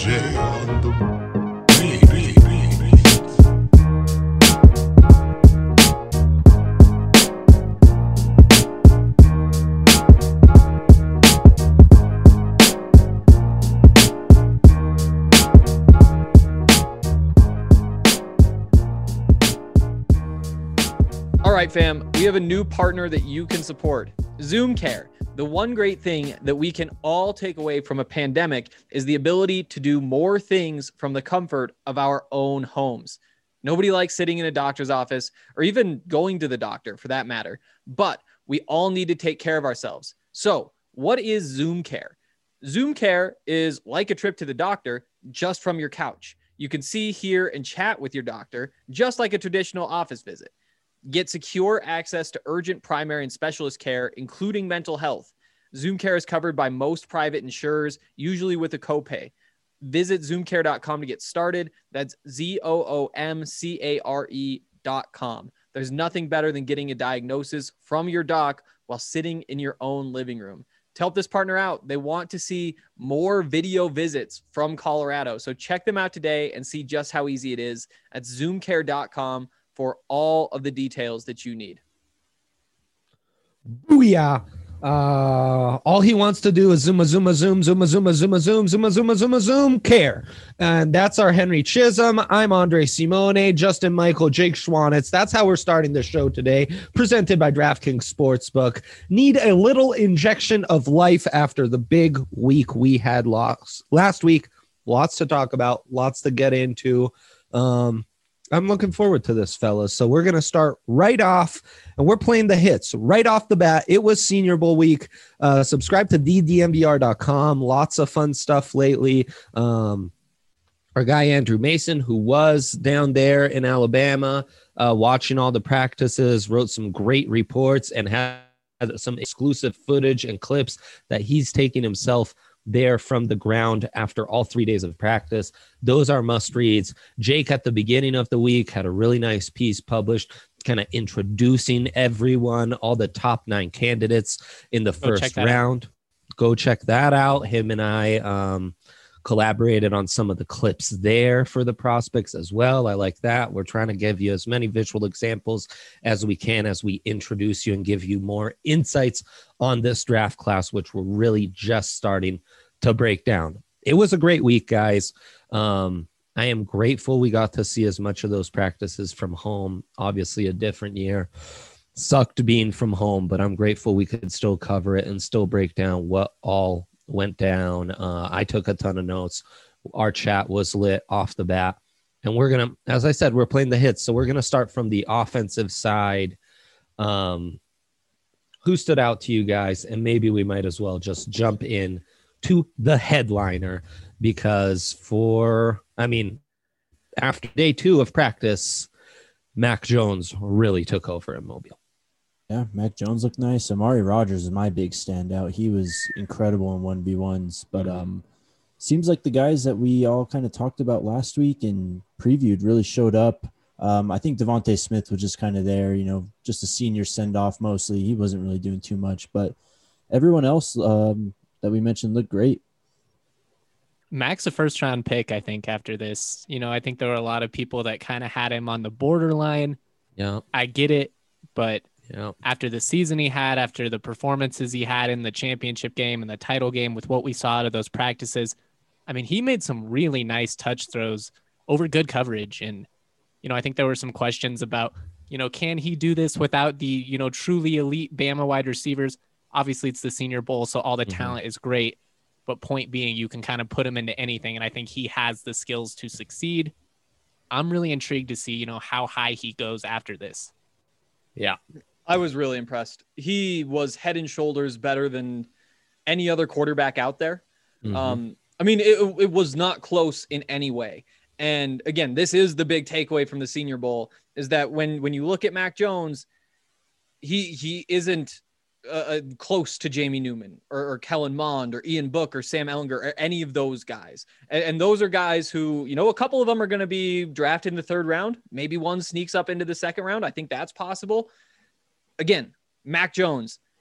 J on the beat. All right, fam, we have a new partner that you can support, Zoom Care. The one great thing that we can all take away from a pandemic is the ability to do more things from the comfort of our own homes. Nobody likes sitting in a doctor's office or even going to the doctor for that matter, but we all need to take care of ourselves. So what is Zoom Care? Zoom Care is like a trip to the doctor, just from your couch. You can see, hear, and chat with your doctor, just like a traditional office visit. Get secure access to urgent primary and specialist care, including mental health. Zoom Care is covered by most private insurers, usually with a copay. Visit zoomcare.com to get started. That's ZOOMCARE.com. There's nothing better than getting a diagnosis from your doc while sitting in your own living room. To help this partner out, they want to see more video visits from Colorado. So check them out today and see just how easy it is at zoomcare.com for all of the details that you need. Booyah. All he wants to do is zoom care. And that's our Henry Chisholm. I'm Andre Simone, Justin Michael, Jake Schwanitz. That's how we're starting the show today, presented by DraftKings Sportsbook. Need a little injection of life after the big week we had last week. Lots to talk about, lots to get into. I'm looking forward to this, fellas. So we're going to start right off, and we're playing the hits right off the bat. It was Senior Bowl week. Subscribe to thednvr.com. Lots of fun stuff lately. Our guy Andrew Mason, who was down there in Alabama watching all the practices, wrote some great reports and had some exclusive footage and clips that he's taking himself there from the ground after all 3 days of practice. Those are must reads. Jake at the beginning of the week had a really nice piece published, kind of introducing everyone, all the top 9 candidates in the first round. Go check that out. Him and I collaborated on some of the clips there for the prospects as well. I like that. We're trying to give you as many visual examples as we can as we introduce you and give you more insights on this draft class, which we're really just starting to break down. It was a great week, guys. I am grateful we got to see as much of those practices from home. Obviously a different year. Sucked being from home, but I'm grateful we could still cover it and still break down what all went down. I took a ton of notes. Our chat was lit off the bat. And we're going to, as I said, we're playing the hits. So we're going to start from the offensive side. Who stood out to you guys? And maybe we might as well just jump in to the headliner, because after day 2 of practice, Mac Jones really took over in Mobile. Yeah, Mac Jones looked nice. Amari Rodgers is my big standout. He was incredible in 1v1s, but seems like the guys that we all kind of talked about last week and previewed really showed up. I think Devontae Smith was just kind of there, just a senior send-off mostly. He wasn't really doing too much, but everyone else that we mentioned looked great. Mac's a first-round pick, I think, after this. I think there were a lot of people that kind of had him on the borderline. Yeah, I get it, but after the season he had, after the performances he had in the championship game and the title game with what we saw out of those practices, he made some really nice touch throws over good coverage. And, I think there were some questions about, can he do this without the, truly elite Bama wide receivers? Obviously, it's the Senior Bowl, so all the talent is great. But point being, you can kind of put him into anything, and I think he has the skills to succeed. I'm really intrigued to see, how high he goes after this. Yeah, I was really impressed. He was head and shoulders better than any other quarterback out there. It was not close in any way. And again, this is the big takeaway from the Senior Bowl, is that when you look at Mac Jones, he isn't close to Jamie Newman or Kellen Mond or Ian Book or Sam Ellinger or any of those guys. And those are guys who, a couple of them are going to be drafted in the 3rd round. Maybe one sneaks up into the 2nd round. I think that's possible. Again, Mac Jones,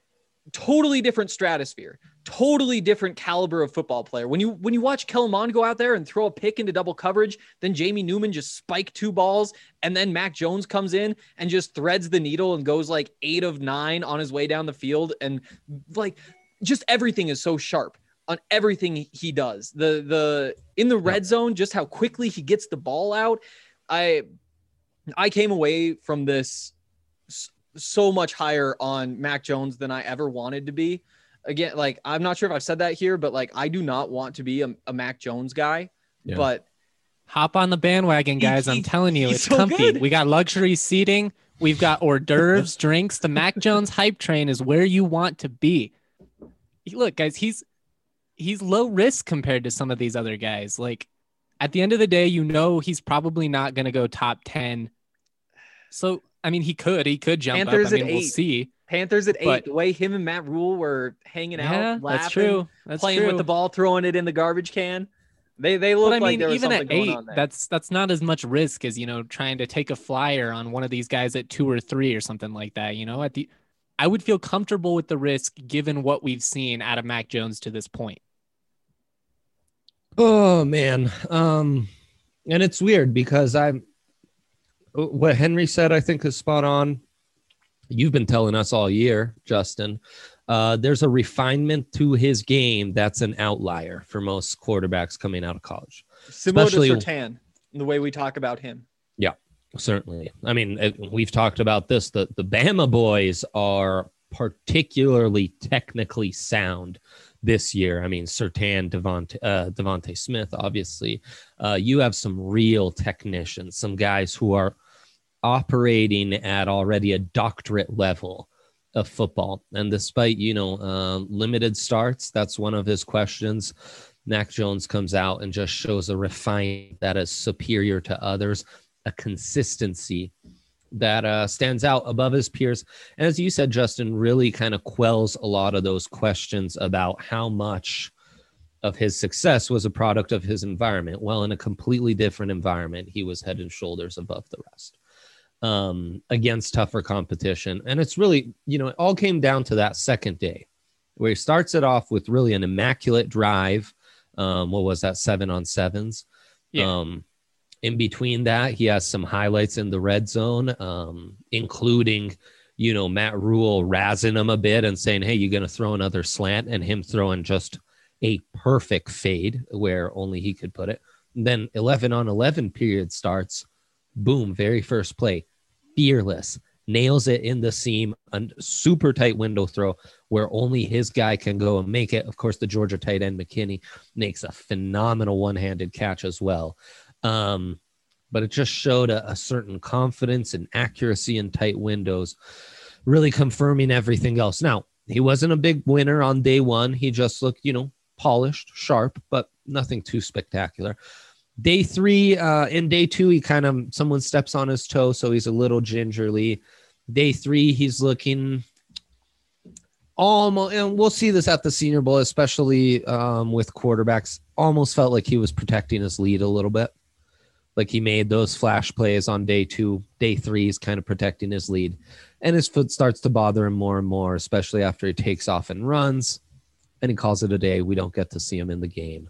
totally different stratosphere, totally different caliber of football player. When you watch Kellen Mond go out there and throw a pick into double coverage, then Jamie Newman just spike 2 balls, and then Mac Jones comes in and just threads the needle and goes like 8 of 9 on his way down the field, and like just everything is so sharp on everything he does. The in the red zone, just how quickly he gets the ball out. I came away from this so much higher on Mac Jones than I ever wanted to be. Again, like, I'm not sure if I've said that here, but like, I do not want to be a Mac Jones guy, but hop on the bandwagon, guys. I'm telling you, it's so comfy. good. We got luxury seating. We've got hors d'oeuvres, drinks. The Mac Jones hype train is where you want to be. Look, guys, he's low risk compared to some of these other guys. Like, at the end of the day, he's probably not going to go top 10. So, I mean, he could jump Panthers up. I mean, at 8. we'll see. Panthers at 8. But the way him and Matt Rule were hanging out, laughing, that's true. That's playing true. with the ball, throwing it in the garbage can. They look like there was even something at going 8, on there. that's not as much risk as, trying to take a flyer on one of these guys at 2 or 3 or something like that. I would feel comfortable with the risk given what we've seen out of Mac Jones to this point. Oh man. And it's weird because what Henry said, I think, is spot on. You've been telling us all year, Justin. There's a refinement to his game that's an outlier for most quarterbacks coming out of college. Similar to Surtain, the way we talk about him. Yeah, certainly. I mean, we've talked about this. The Bama boys are particularly technically sound this year. I mean, Surtain, Devontae Smith, obviously. You have some real technicians, some guys who are operating at already a doctorate level of football. And despite, limited starts, that's one of his questions. Mac Jones comes out and just shows a refinement that is superior to others, a consistency that stands out above his peers. And as you said, Justin, really kind of quells a lot of those questions about how much of his success was a product of his environment. Well, in a completely different environment, he was head and shoulders above the rest. Against tougher competition. And it's really, it all came down to that second day where he starts it off with really an immaculate drive. What was that? 7-on-7s. Yeah. In between that, he has some highlights in the red zone, including, Matt Rule razzing him a bit and saying, hey, you're going to throw another slant, and him throwing just a perfect fade where only he could put it. And then 11-on-11 period starts. Boom, very first play. Fearless, nails it in the seam, a super tight window throw where only his guy can go and make it. Of course, the Georgia tight end McKinney makes a phenomenal one-handed catch as well. But it just showed a certain confidence and accuracy in tight windows, really confirming everything else. Now, he wasn't a big winner on day one. He just looked, polished, sharp, but nothing too spectacular. Day 3, in day 2, he someone steps on his toe, so he's a little gingerly. Day 3, he's looking almost, and we'll see this at the Senior Bowl, especially with quarterbacks, almost felt like he was protecting his lead a little bit. Like he made those flash plays on day 2. Day 3, he's kind of protecting his lead. And his foot starts to bother him more and more, especially after he takes off and runs. And he calls it a day. We don't get to see him in the game.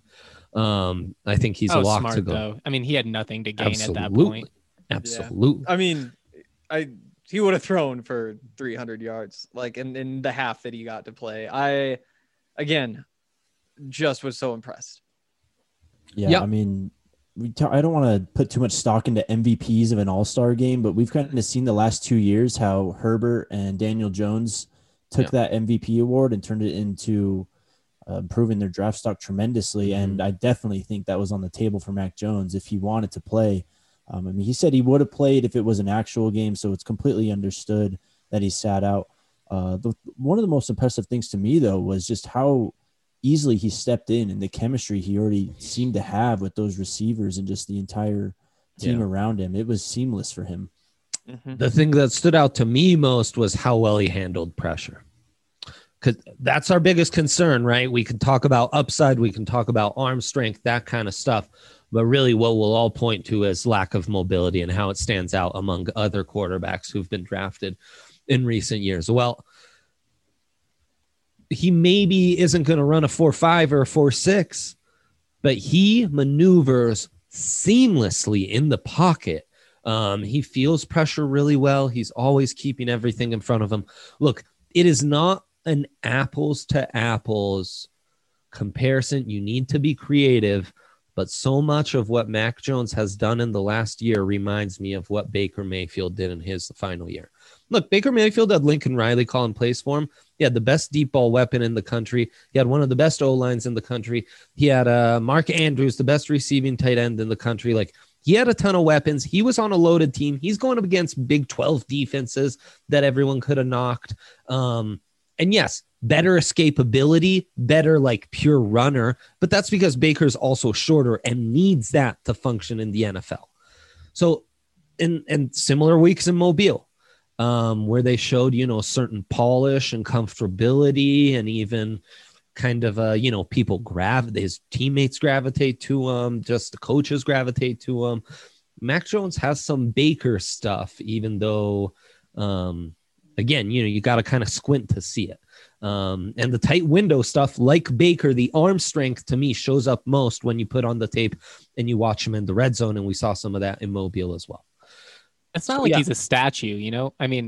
I think he's a lock smart, to go. though. I mean, he had nothing to gain at that point. Absolutely. Yeah. I mean, he would have thrown for 300 yards, like in the half that he got to play. I, again, just was so impressed. Yeah, Yep. I mean, I don't want to put too much stock into MVPs of an all-star game, but we've kind of seen the last 2 years how Herbert and Daniel Jones took that MVP award and turned it into improving their draft stock tremendously. Mm-hmm. And I definitely think that was on the table for Mac Jones if he wanted to play. I mean, he said he would have played if it was an actual game, so it's completely understood that he sat out. One of the most impressive things to me, though, was just how easily he stepped in and the chemistry he already seemed to have with those receivers and just the entire team around him. It was seamless for him. Mm-hmm. The thing that stood out to me most was how well he handled pressure. Because that's our biggest concern, right? We can talk about upside, we can talk about arm strength, that kind of stuff. But really what we'll all point to is lack of mobility and how it stands out among other quarterbacks who've been drafted in recent years. Well, he maybe isn't going to run a 4.5 or a 4.6, but he maneuvers seamlessly in the pocket. He feels pressure really well. He's always keeping everything in front of him. Look, it is not an apples to apples comparison. You need to be creative, but so much of what Mac Jones has done in the last year reminds me of what Baker Mayfield did in his final year. Look, Baker Mayfield had Lincoln Riley calling plays for him. He had the best deep ball weapon in the country. He had one of the best O-lines in the country. He had Mark Andrews, the best receiving tight end in the country. Like, he had a ton of weapons. He was on a loaded team. He's going up against Big 12 defenses that everyone could have knocked. And yes, better escapability, better like pure runner, but that's because Baker's also shorter and needs that to function in the NFL. So in similar weeks in Mobile, where they showed, certain polish and comfortability and even kind of, people his teammates gravitate to him, just the coaches gravitate to him. Mac Jones has some Baker stuff, even though, again, you got to kind of squint to see it. And the tight window stuff, like Baker, the arm strength to me shows up most when you put on the tape and you watch him in the red zone. And we saw some of that in Mobile as well. It's not he's a statue, I mean,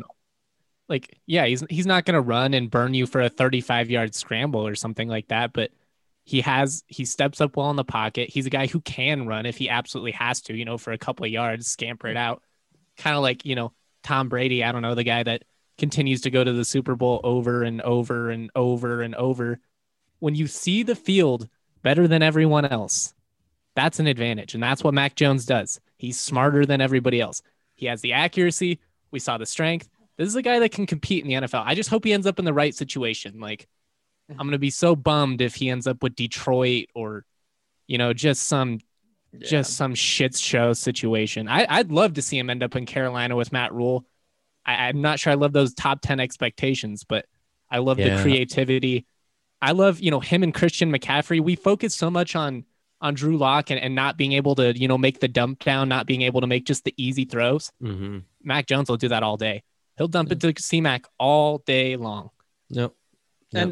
he's not going to run and burn you for a 35-yard scramble or something like that, but he steps up well in the pocket. He's a guy who can run if he absolutely has to, for a couple of yards, scamper it out. Kind of like, Tom Brady, I don't know, the guy that continues to go to the Super Bowl over and over and over and over. When you see the field better than everyone else, that's an advantage. And that's what Mac Jones does. He's smarter than everybody else. He has the accuracy. We saw the strength. This is a guy that can compete in the NFL. I just hope he ends up in the right situation. Like, I'm going to be so bummed if he ends up with Detroit or, just some shit show situation. I'd love to see him end up in Carolina with Matt Rule. I'm not sure I love those top 10 expectations, but I love the creativity. I love, him and Christian McCaffrey. We focus so much on Drew Lock and not being able to, make the dump down, not being able to make just the easy throws. Mm-hmm. Mac Jones will do that all day. He'll dump it to C-Mac all day long. Yep. And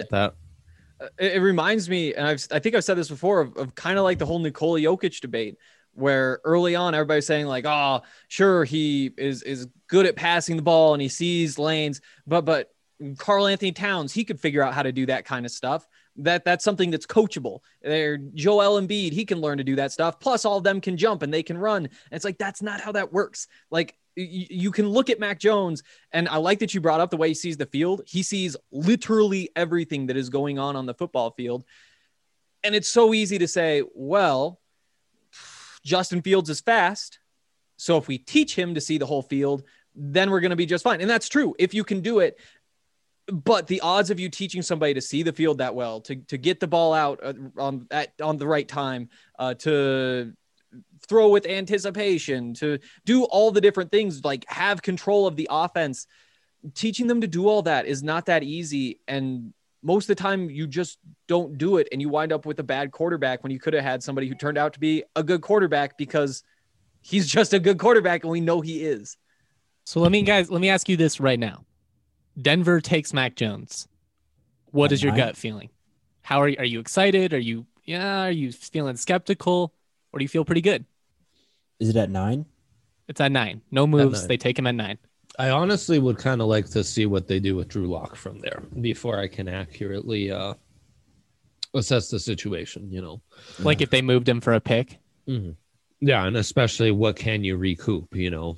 it reminds me, and I think I've said this before, of kind of like the whole Nikola Jokic debate, where early on everybody's saying like, oh, sure, he is good at passing the ball and he sees lanes, but Karl Anthony Towns, he could figure out how to do that kind of stuff. That's something that's coachable. Joel Embiid, he can learn to do that stuff. Plus all of them can jump and they can run. And it's like, that's not how that works. Like, you can look at Mac Jones, and I like that you brought up the way he sees the field. He sees literally everything that is going on the football field. And it's so easy to say, well, Justin Fields is fast, so if we teach him to see the whole field, then we're going to be just fine. And that's true if you can do it. But the odds of you teaching somebody to see the field that well, to get the ball out on the right time, to throw with anticipation, to do all the different things, like have control of the offense, teaching them to do all that is not that easy. And most of the time you just don't do it. And you wind up with a bad quarterback when you could have had somebody who turned out to be a good quarterback because he's just a good quarterback and we know he is. So let me ask you this right now. Denver takes Mac Jones. What is your gut feeling? How are you excited? Are you feeling skeptical, or do you feel pretty good? Is it at 9? It's at 9. No moves. They take him at 9. I honestly would kind of like to see what they do with Drew Lock from there before I can accurately assess the situation, Like if they moved him for a pick? Mm-hmm. Yeah, and especially what can you recoup,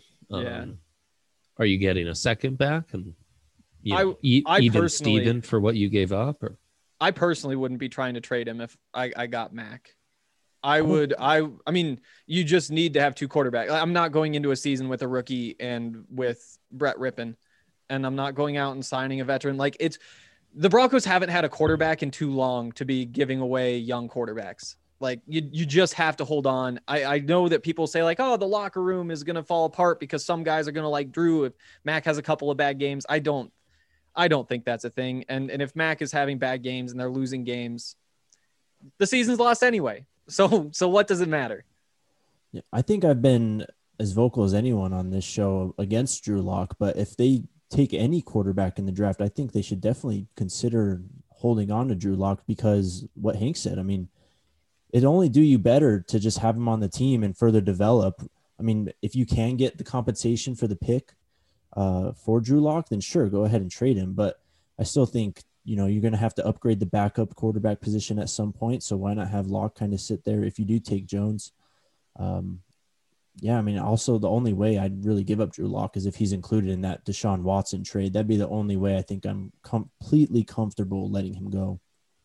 Are you getting a second back and even Steven for what you gave up? Or? I personally wouldn't be trying to trade him if I got Mac. I mean, you just need to have two quarterbacks. I'm not going into a season with a rookie and with Brett Rippon, and I'm not going out and signing a veteran. Like, the Broncos haven't had a quarterback in too long to be giving away young quarterbacks. Like, you just have to hold on. I know that people say like, oh, the locker room is going to fall apart because some guys are going to like Drew if Mac has a couple of bad games. I don't think that's a thing. And if Mac is having bad games and they're losing games, the season's lost anyway. So what does it matter? Yeah, I think I've been as vocal as anyone on this show against Drew Lock, but if they take any quarterback in the draft, I think they should definitely consider holding on to Drew Lock because what Hank said. I mean, it'd only do you better to just have him on the team and further develop. I mean, if you can get the compensation for the pick for Drew Lock, then sure, go ahead and trade him. But I still think, you're going to have to upgrade the backup quarterback position at some point. So why not have Lock kind of sit there if you do take Jones? Yeah, I mean, also the only way I'd really give up Drew Lock is if he's included in that Deshaun Watson trade. That'd be the only way I think I'm completely comfortable letting him go.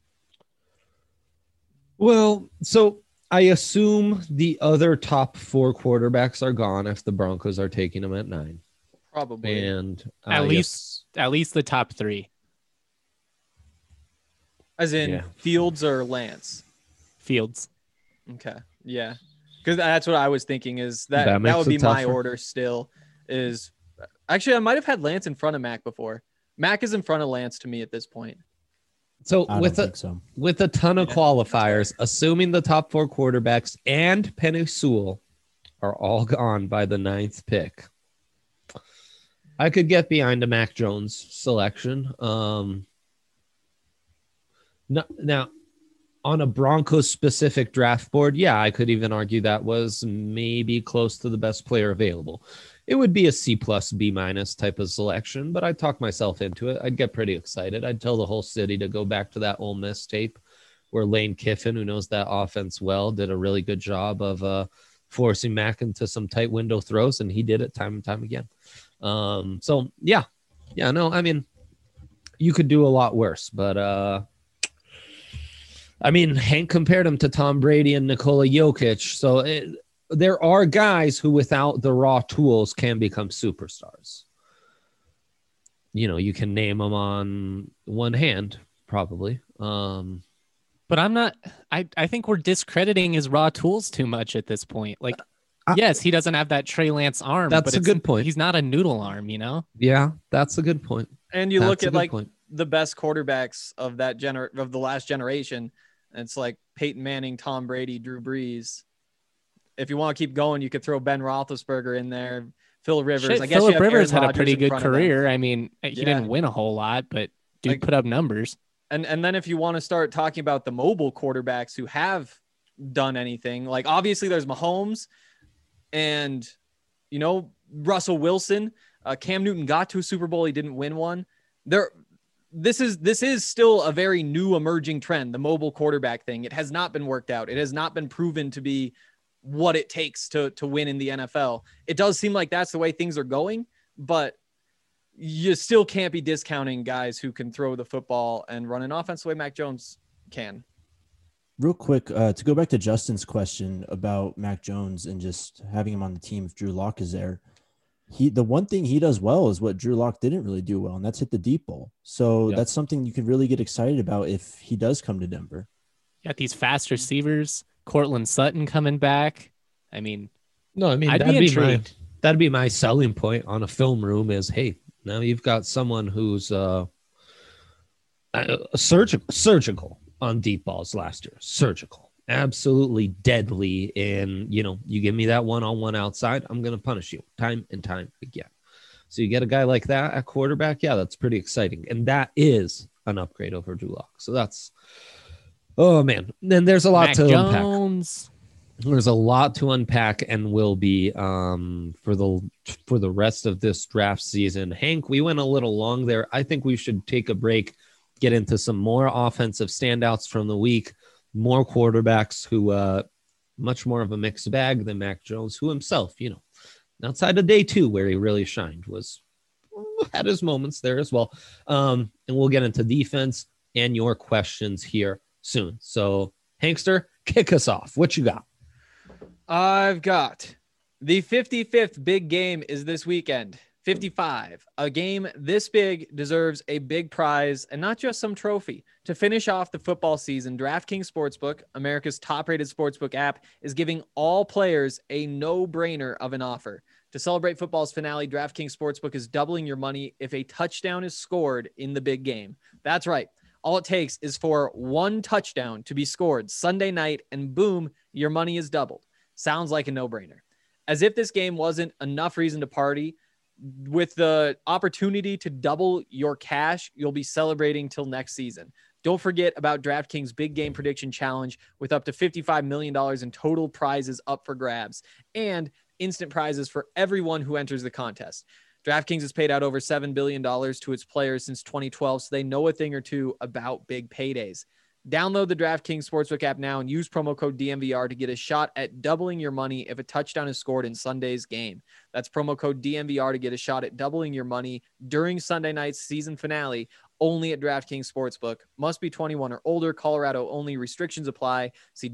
Well, so I assume the other top 4 quarterbacks are gone if the Broncos are taking them at 9. Probably. And At least the top 3. As in Yeah. Fields or Lance? Fields. Okay. Yeah. Because that's what I was thinking is that That makes would it be my tougher. order still is actually I might have had Lance in front of Mac before. Mac is in front of Lance to me at this point. so I with don't a think so. with a ton of qualifiers, assuming the top 4 quarterbacks and Penei Sewell are all gone by the 9th pick, I could get behind a Mac Jones selection. Now, on a Broncos specific draft board, yeah, I could even argue that was maybe close to the best player available. It would be a C plus B minus type of selection, but I'd talk myself into it. I'd get pretty excited. I'd tell the whole city to go back to that Ole Miss tape where Lane Kiffin, who knows that offense well, did a really good job of forcing Mac into some tight window throws, and he did it time and time again. So yeah, no, I mean, you could do a lot worse, but I mean, Hank compared him to Tom Brady and Nikola Jokic. So there are guys who, without the raw tools, can become superstars. You can name them on one hand, probably. But I'm not. I think we're discrediting his raw tools too much at this point. Like, yes, he doesn't have that Trey Lance arm. That's but a good point. He's not a noodle arm, Yeah, that's a good point. And you That's look a at good like point. the best quarterbacks of that of the last generation. And it's like Peyton Manning, Tom Brady, Drew Brees. If you want to keep going, you could throw Ben Roethlisberger in there, Phil Rivers. Shit, I guess Phillip you have Rivers Aaron had a Rodgers pretty in good front of them. career. I mean, he Yeah. didn't win a whole lot, but dude Like- put up numbers. And then if you want to start talking about the mobile quarterbacks who have done anything, like obviously there's Mahomes and, Russell Wilson. Cam Newton got to a Super Bowl. He didn't win one. This is still a very new emerging trend, the mobile quarterback thing. It has not been worked out. It has not been proven to be what it takes to win in the NFL. It does seem like that's the way things are going, but you still can't be discounting guys who can throw the football and run an offense the way Mac Jones can. Real quick, to go back to Justin's question about Mac Jones and just having him on the team if Drew Lock is there. The one thing he does well is what Drew Lock didn't really do well, and that's hit the deep ball. So Yep. that's something you could really get excited about if he does come to Denver. Got these fast receivers. Cortland Sutton coming back. I mean, No, I mean, I'd that'd be be my intrigued. that'd be my selling point on a film room is, hey, now you've got someone who's surgical on deep balls last year. Surgical. Absolutely deadly. And, you give me that one-on-one outside, I'm going to punish you time and time again. So you get a guy like that at quarterback. Yeah, that's pretty exciting. And that is an upgrade over Drew Lock. So that's, oh, man. Then there's a lot Mac to unpack. Jones. There's a lot to unpack and will be for the rest of this draft season. Hank, we went a little long there. I think we should take a break, get into some more offensive standouts from the week, more quarterbacks who much more of a mixed bag than Mac Jones, who himself, outside of day 2 where he really shined, had his moments there as well. And we'll get into defense and your questions here soon. So, Hankster, kick us off. What you got? I've got the 55th big game is this weekend. 55. A game this big deserves a big prize and not just some trophy. To finish off the football season, DraftKings Sportsbook, America's top-rated sportsbook app, is giving all players a no-brainer of an offer. To celebrate football's finale, DraftKings Sportsbook is doubling your money if a touchdown is scored in the big game. That's right. All it takes is for one touchdown to be scored Sunday night, and boom, your money is doubled. Sounds like a no-brainer. As if this game wasn't enough reason to party, with the opportunity to double your cash, you'll be celebrating till next season. Don't forget about DraftKings Big Game Prediction Challenge with up to $55 million in total prizes up for grabs and instant prizes for everyone who enters the contest. DraftKings has paid out over $7 billion to its players since 2012, so they know a thing or two about big paydays. Download the DraftKings Sportsbook app now and use promo code DMVR to get a shot at doubling your money if a touchdown is scored in Sunday's game. That's promo code DMVR to get a shot at doubling your money during Sunday night's season finale only at DraftKings Sportsbook. Must be 21 or older. Colorado only. Restrictions apply. See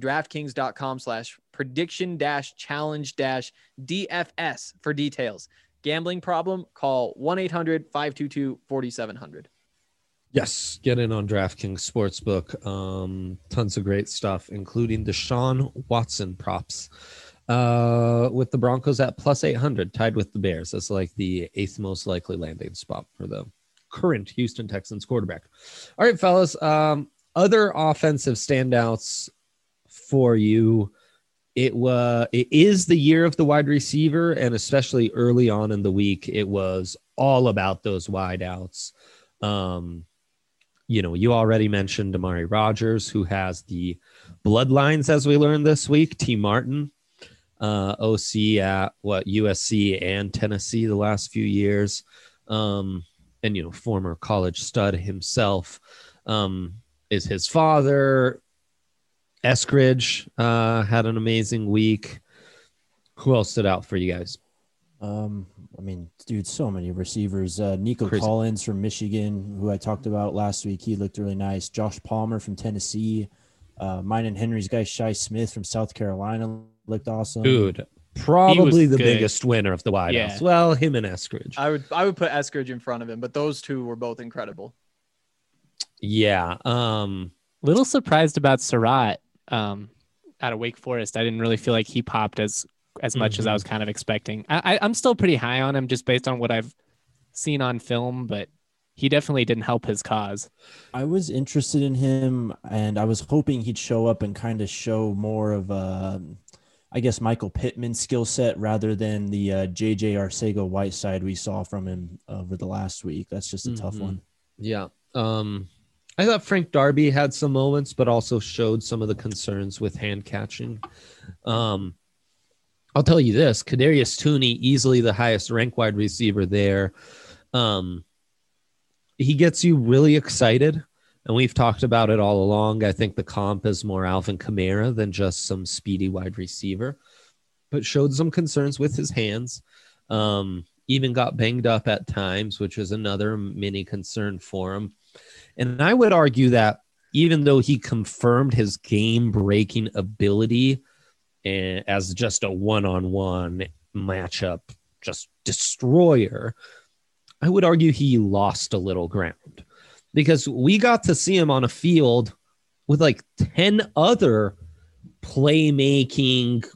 DraftKings.com/prediction-challenge-DFS for details. Gambling problem? Call 1-800-522-4700. Yes, get in on DraftKings Sportsbook. Tons of great stuff, including Deshaun Watson props. With the Broncos at plus 800, tied with the Bears. That's like the 8th most likely landing spot for the current Houston Texans quarterback. All right, fellas. Other offensive standouts for you. It is the year of the wide receiver, and especially early on in the week, it was all about those wideouts. You already mentioned Amari Rogers, who has the bloodlines, as we learned this week. T. Martin, OC at USC and Tennessee the last few years, and former college stud himself, is his father. Eskridge had an amazing week. Who else stood out for you guys? Dude, so many receivers. Nico Crazy. Collins from Michigan, who I talked about last week. He looked really nice. Josh Palmer from Tennessee. Mine and Henry's guy, Shi Smith from South Carolina, looked awesome. Dude, probably the good. biggest winner of the wideouts. Yeah. Well, him and Eskridge. I would put Eskridge in front of him, but those two were both incredible. Yeah. Little surprised about Surratt out of Wake Forest. I didn't really feel like he popped as much as I was kind of expecting. I'm still pretty high on him just based on what I've seen on film, but he definitely didn't help his cause. I was interested in him, and I was hoping he'd show up and kind of show more of Michael Pittman skill set rather than the JJ Arcega-Whiteside we saw from him over the last week. That's just a tough one. Yeah. I thought Frank Darby had some moments, but also showed some of the concerns with hand catching. I'll tell you this, Kadarius Toney, easily the highest ranked wide receiver there. He gets you really excited, and we've talked about it all along. I think the comp is more Alvin Kamara than just some speedy wide receiver, but showed some concerns with his hands. Even got banged up at times, which is another mini concern for him. And I would argue that even though he confirmed his game-breaking ability as just a one-on-one matchup, just destroyer, I would argue he lost a little ground because we got to see him on a field with like 10 other playmaking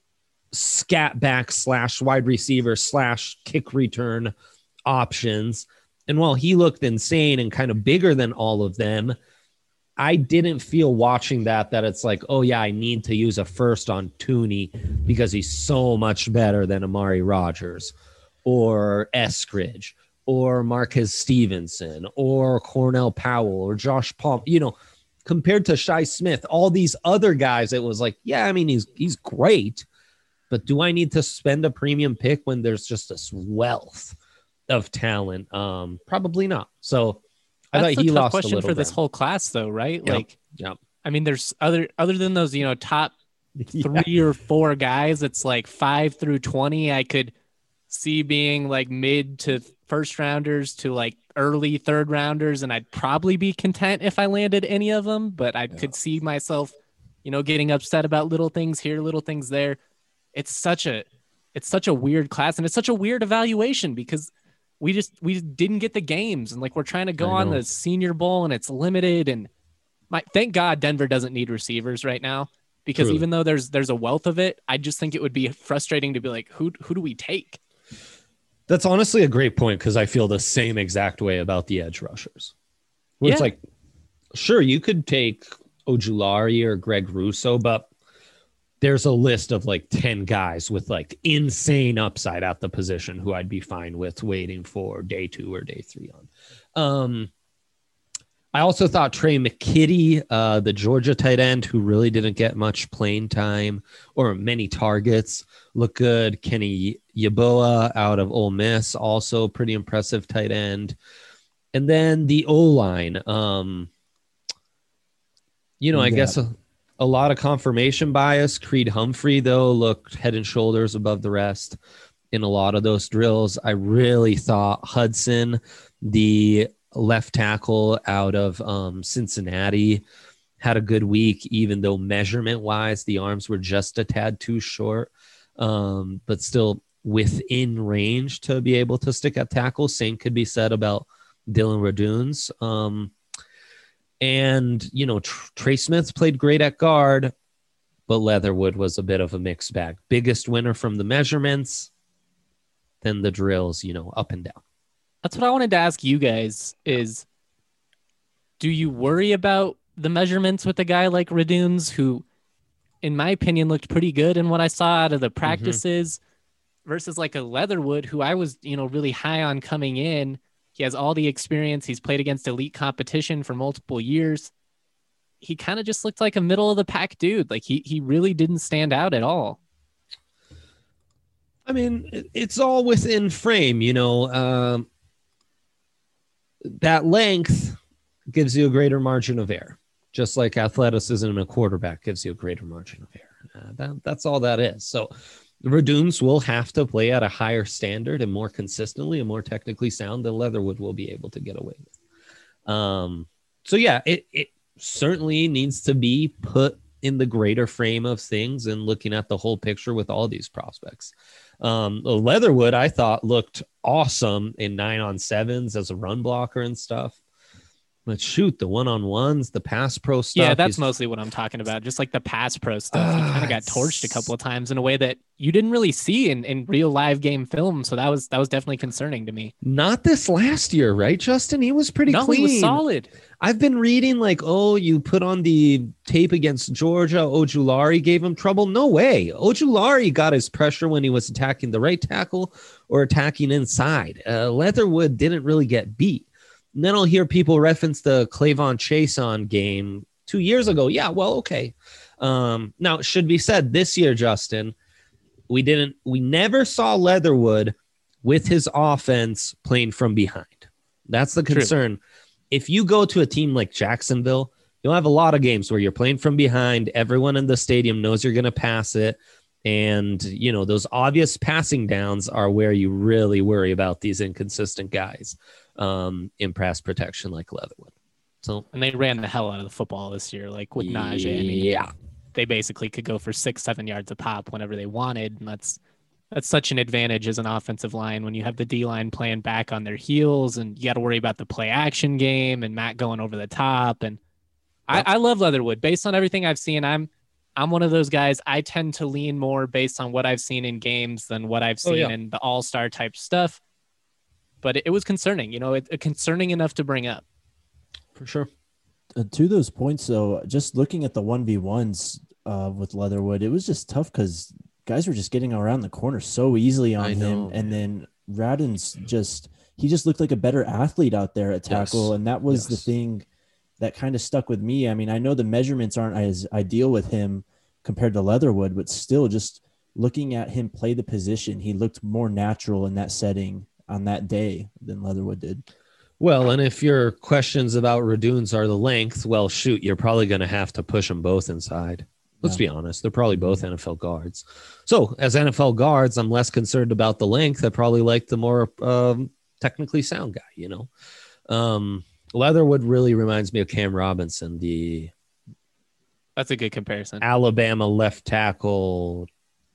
scat back / wide receiver / kick return options. And while he looked insane and kind of bigger than all of them, I didn't feel watching that it's like, oh yeah, I need to use a first on Toney because he's so much better than Amari Rogers or Eskridge or Marquez Stevenson or Cornell Powell or Josh Palmer. Compared to Shi Smith, all these other guys, it was like, yeah, I mean, he's great, but do I need to spend a premium pick when there's just this wealth of talent? Probably not. So I thought he lost a question little for this ground. whole class, though, right? Yep. I mean, there's other than those, top 3 or 4 guys. It's like 5 through 20. I could see being like mid to first rounders to like early third rounders, and I'd probably be content if I landed any of them. But I could see myself, getting upset about little things here, little things there. It's such a weird class, and it's such a weird evaluation because we didn't get the games, and like we're trying to go on the Senior Bowl and it's limited. And thank God Denver doesn't need receivers right now, because Truly. even though there's a wealth of it, I just think it would be frustrating to be like, who do we take? That's honestly a great point because I feel the same exact way about the edge rushers. Where it's like, sure, you could take Ojulari or Greg Russo, but there's a list of like 10 guys with like insane upside at the position who I'd be fine with waiting for day 2 or day 3 on. I also thought Trey McKitty, the Georgia tight end, who really didn't get much playing time or many targets, looked good. Kenny Yeboah out of Ole Miss, also pretty impressive tight end. And then the O-line, I guess a lot of confirmation bias. Creed Humphrey, though, looked head and shoulders above the rest in a lot of those drills. I really thought Hudson, the left tackle out of Cincinnati, had a good week, even though measurement-wise, the arms were just a tad too short, but still within range to be able to stick at tackle. Same could be said about Dylan Raduns. Trey Smith played great at guard, but Leatherwood was a bit of a mixed bag. Biggest winner from the measurements, then the drills, up and down. That's what I wanted to ask you guys is, do you worry about the measurements with a guy like Raduns, who, in my opinion, looked pretty good in what I saw out of the practices, versus like a Leatherwood, who I was, really high on coming in. He has all the experience. He's played against elite competition for multiple years. He kind of just looked like a middle of the pack dude. Like he really didn't stand out at all. I mean, it's all within frame, that length gives you a greater margin of error, just like athleticism in a quarterback gives you a greater margin of error. That's all that is. So Raduns will have to play at a higher standard and more consistently and more technically sound than Leatherwood will be able to get away with. It certainly needs to be put in the greater frame of things and looking at the whole picture with all these prospects. Leatherwood, I thought, looked awesome in 9-on-7s as a run blocker and stuff. But shoot, the one-on-ones, the pass pro stuff. Yeah, that's mostly what I'm talking about. Just like the pass pro stuff. He kind of got torched a couple of times in a way that you didn't really see in real live game film. So that was definitely concerning to me. Not this last year, right, Justin? He was pretty clean. He was solid. I've been reading you put on the tape against Georgia, Ojulari gave him trouble. No way. Ojulari got his pressure when he was attacking the right tackle or attacking inside. Leatherwood didn't really get beat. And then I'll hear people reference the Clavon Chason game 2 years ago. Yeah, well, okay. Now, it should be said this year, Justin, we never saw Leatherwood with his offense playing from behind. That's the concern. True. If you go to a team like Jacksonville, you'll have a lot of games where you're playing from behind. Everyone in the stadium knows you're going to pass it. And, those obvious passing downs are where you really worry about these inconsistent guys in pass protection like Leatherwood. And they ran the hell out of the football this year, like with Najee. I mean, they basically could go for 6-7 yards a pop whenever they wanted. And that's such an advantage as an offensive line when you have the D-line playing back on their heels and you got to worry about the play action game and Matt going over the top. And I love Leatherwood. Based on everything I've seen, I'm one of those guys. I tend to lean more based on what I've seen in games than what I've seen in the all-star type stuff. But it was concerning, concerning enough to bring up. For sure. To those points, though, just looking at the 1v1s with Leatherwood, it was just tough because guys were just getting around the corner so easily on him. And then Raduns he just looked like a better athlete out there at tackle. Yes. And that was the thing that kind of stuck with me. I mean, I know the measurements aren't as ideal with him compared to Leatherwood, but still just looking at him play the position, he looked more natural in that setting on that day than Leatherwood did. Well, and if your questions about Raduns are the length, well, shoot, you're probably going to have to push them both inside. Let's be honest. They're probably both NFL guards. So as NFL guards, I'm less concerned about the length. I probably like the more technically sound guy, Leatherwood really reminds me of Cam Robinson, that's a good comparison. Alabama left tackle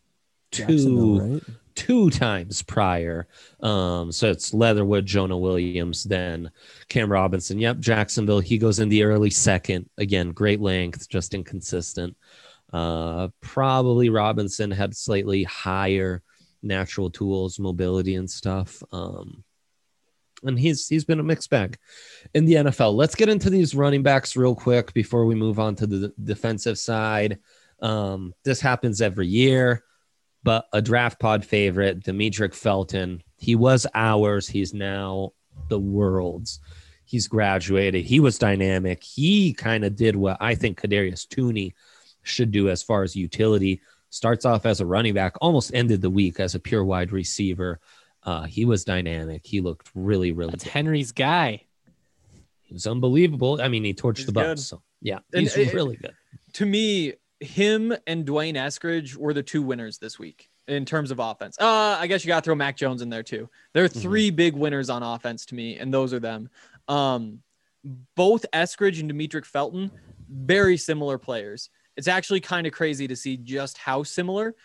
two times prior. So it's Leatherwood, Jonah Williams, then Cam Robinson. Yep, Jacksonville. He goes in the early second. Again, great length, just inconsistent. Probably Robinson had slightly higher natural tools, mobility and stuff. And he's been a mixed bag in the NFL. Let's get into these running backs real quick before we move on to the defensive side. This happens every year, but a draft pod favorite, Demetric Felton, he was ours. He's now the world's. He's graduated. He was dynamic. He kind of did what I think Kadarius Toney should do as far as utility. Starts off as a running back, almost ended the week as a pure wide receiver. He was dynamic. He looked really, really That's good. Henry's guy. He was unbelievable. I mean, he torched He's the good. Bucks. So yeah, And he's really good. To me, him and Dwayne Eskridge were the two winners this week in terms of offense. I guess you got to throw Mac Jones in there too. There are three big winners on offense to me, and those are them. Both Eskridge and Demetric Felton, very similar players. It's actually kind of crazy to see just how similar.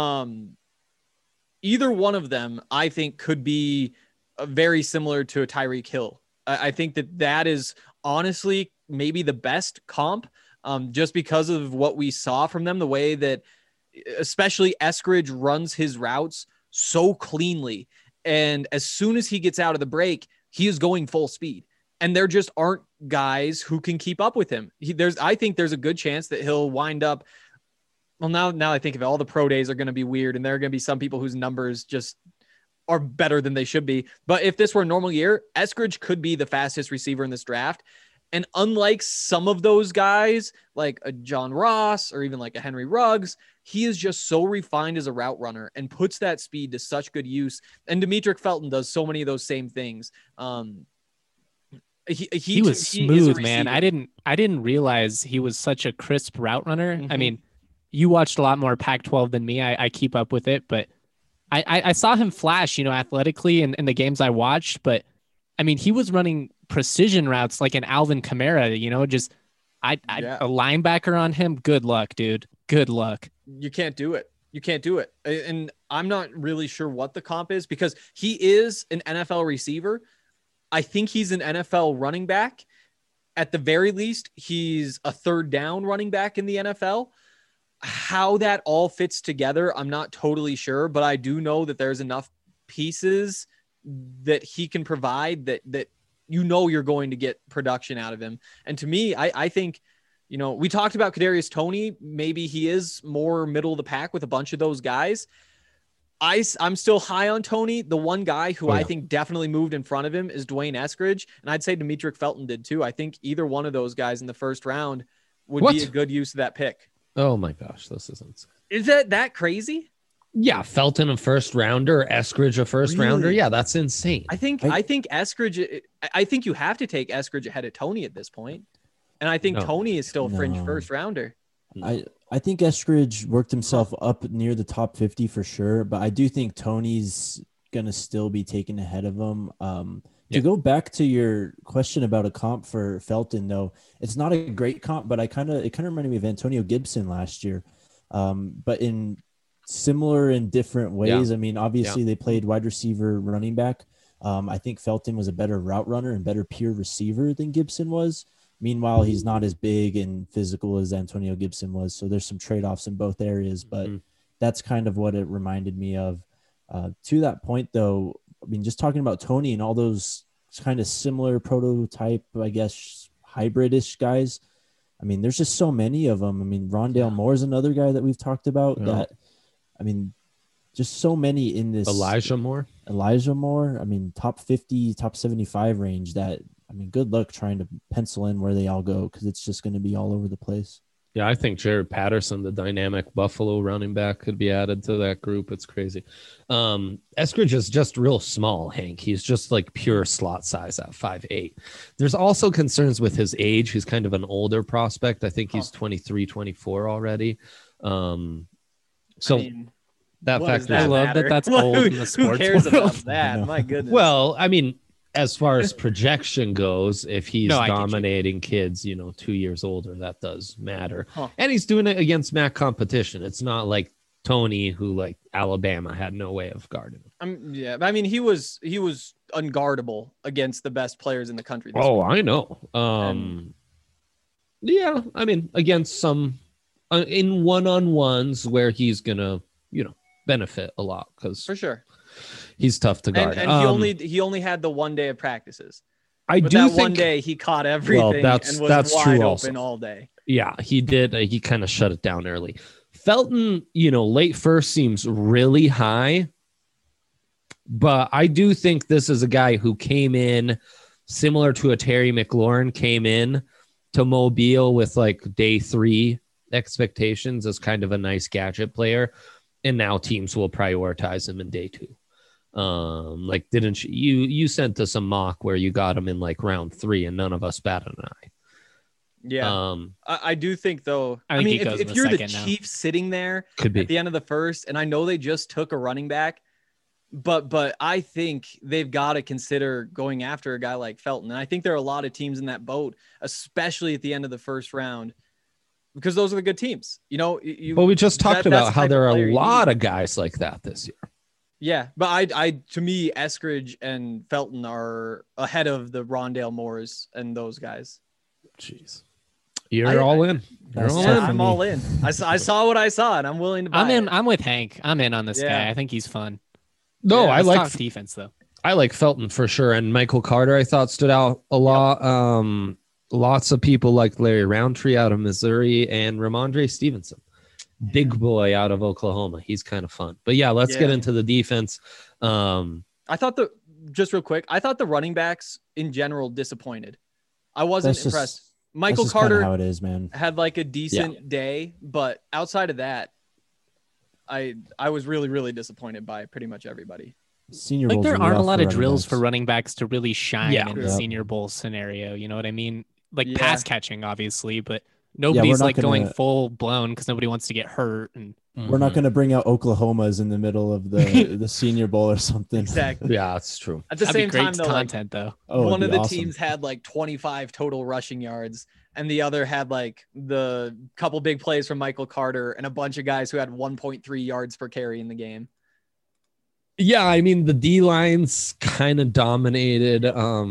Either one of them, I think, could be very similar to a Tyreek Hill. I think that is honestly maybe the best comp, just because of what we saw from them, the way that especially Eskridge runs his routes so cleanly. And as soon as he gets out of the break, he is going full speed. And there just aren't guys who can keep up with him. I think there's a good chance that he'll wind up. Well, now I think of it, all the pro days are going to be weird, and there are going to be some people whose numbers just are better than they should be. But if this were a normal year, Eskridge could be the fastest receiver in this draft. And unlike some of those guys, like a John Ross or even like a Henry Ruggs, he is just so refined as a route runner and puts that speed to such good use. And Demetric Felton does so many of those same things. He was smooth, man. I didn't realize he was such a crisp route runner. Mm-hmm. I mean, you watched a lot more Pac-12 than me. I keep up with it, but I saw him flash, athletically in the games I watched. But I mean, he was running precision routes like an Alvin Kamara. A linebacker on him. Good luck, dude. Good luck. You can't do it. And I'm not really sure what the comp is because he is an NFL receiver. I think he's an NFL running back. At the very least, he's a third down running back in the NFL. How that all fits together, I'm not totally sure, but I do know that there's enough pieces that he can provide that you're going to get production out of him. And to me, I think, we talked about Kadarius Toney. Maybe he is more middle of the pack with a bunch of those guys. I'm still high on Toney. The one guy who I think definitely moved in front of him is Dwayne Eskridge. And I'd say Demetric Felton did too. I think either one of those guys in the first round would be a good use of that pick. Oh my gosh, this isn't. Is that crazy? Yeah, Felton a first rounder, Eskridge a first rounder. Yeah, that's insane. I think Eskridge. I think you have to take Eskridge ahead of Toney at this point, and I think Toney is still a fringe first rounder. I think Eskridge worked himself up near the top 50 for sure, but I do think Toney's gonna still be taken ahead of him. To go back to your question about a comp for Felton, though, it's not a great comp, but it kind of reminded me of Antonio Gibson last year, but in similar and different ways. I mean, obviously they played wide receiver, running back. I think Felton was a better route runner and better pure receiver than Gibson was. Meanwhile, he's not as big and physical as Antonio Gibson was. So there's some trade-offs in both areas, but that's kind of what it reminded me of. To that point, though, I mean, just talking about Toney and all those kind of similar prototype, I guess, hybrid-ish guys. I mean, there's just so many of them. I mean, Rondale Moore is another guy that we've talked about that, I mean, just so many in this. Elijah Moore. I mean, top 50, top 75 range that, I mean, good luck trying to pencil in where they all go because it's just going to be all over the place. Yeah, I think Jared Patterson, the dynamic Buffalo running back, could be added to that group. It's crazy. Eskridge is just real small, Hank. He's just like pure slot size at 5'8". There's also concerns with his age. He's kind of an older prospect. I think he's 23, 24 already. I mean, that factor. I love that that's old in the sports. Who cares about that? My goodness. Well, I mean, as far as projection goes, if he's dominating kids, 2 years older, that does matter. And he's doing it against MAC competition. It's not like Toney, who like Alabama had no way of guarding him. Yeah, I mean, he was unguardable against the best players in the country. Week. I know. Yeah, I mean, against some in one-on-ones where he's gonna, benefit a lot because for sure. He's tough to guard. And he only had the 1 day of practices. But that one day he caught everything and was wide open all day. Yeah, he did. He kind of shut it down early. Felton, late first seems really high. But I do think this is a guy who came in similar to a Terry McLaurin, came in to Mobile with like day 3 expectations as kind of a nice gadget player, and now teams will prioritize him in day 2. Like, didn't you sent us a mock where you got him in like round 3 and none of us batted an eye. Yeah. I do think though, I think he mean, goes in if the you're the second now. Chiefs sitting there Could be. at the end of the first, and I know they just took a running back, but I think they've got to consider going after a guy like Felton. And I think there are a lot of teams in that boat, especially at the end of the first round, because those are the good teams. You know, But we just talked that's about the how type there of are player a you lot need. of guys like that this year. Yeah, but I to me, Eskridge and Felton are ahead of the Rondale Moores and those guys. Jeez. You're all in. You're That's all tough in. for I'm me. all in. I saw what I saw, and I'm willing to buy I'm in. it. I'm with Hank. I'm in on this Yeah. guy. I think he's fun. No, Yeah, I Let's like talk defense though. I like Felton for sure, and Michael Carter I thought stood out a lot. Lots of people like Larry Roundtree out of Missouri and Ramondre Stevenson, big boy out of Oklahoma. He's kind of fun. But yeah, let's get Yeah. into the defense. I thought just real quick, I thought the running backs in general disappointed. I wasn't That's just- impressed. That's Michael just kinda Carter how it is, man. had like a decent day, but outside of that, I was really, really disappointed by pretty much everybody. Senior Like Bowl's there really aren't a rough lot for of running drills backs. for running backs to really shine Yeah. in the Yep. Senior Bowl scenario. You know what I mean? Like Yeah. pass catching, obviously, but nobody's not like going gonna- full blown because nobody wants to get hurt. And We're not going to bring out Oklahoma's in the middle of the Senior Bowl or something. Exactly. Yeah, that's true. At the that'd same be great time, though, like, content though. Oh, it'd one be of the awesome. teams had like 25 total rushing yards, and the other had like the couple big plays from Michael Carter and a bunch of guys who had 1.3 yards per carry in the game. Yeah, I mean the D lines kind of dominated.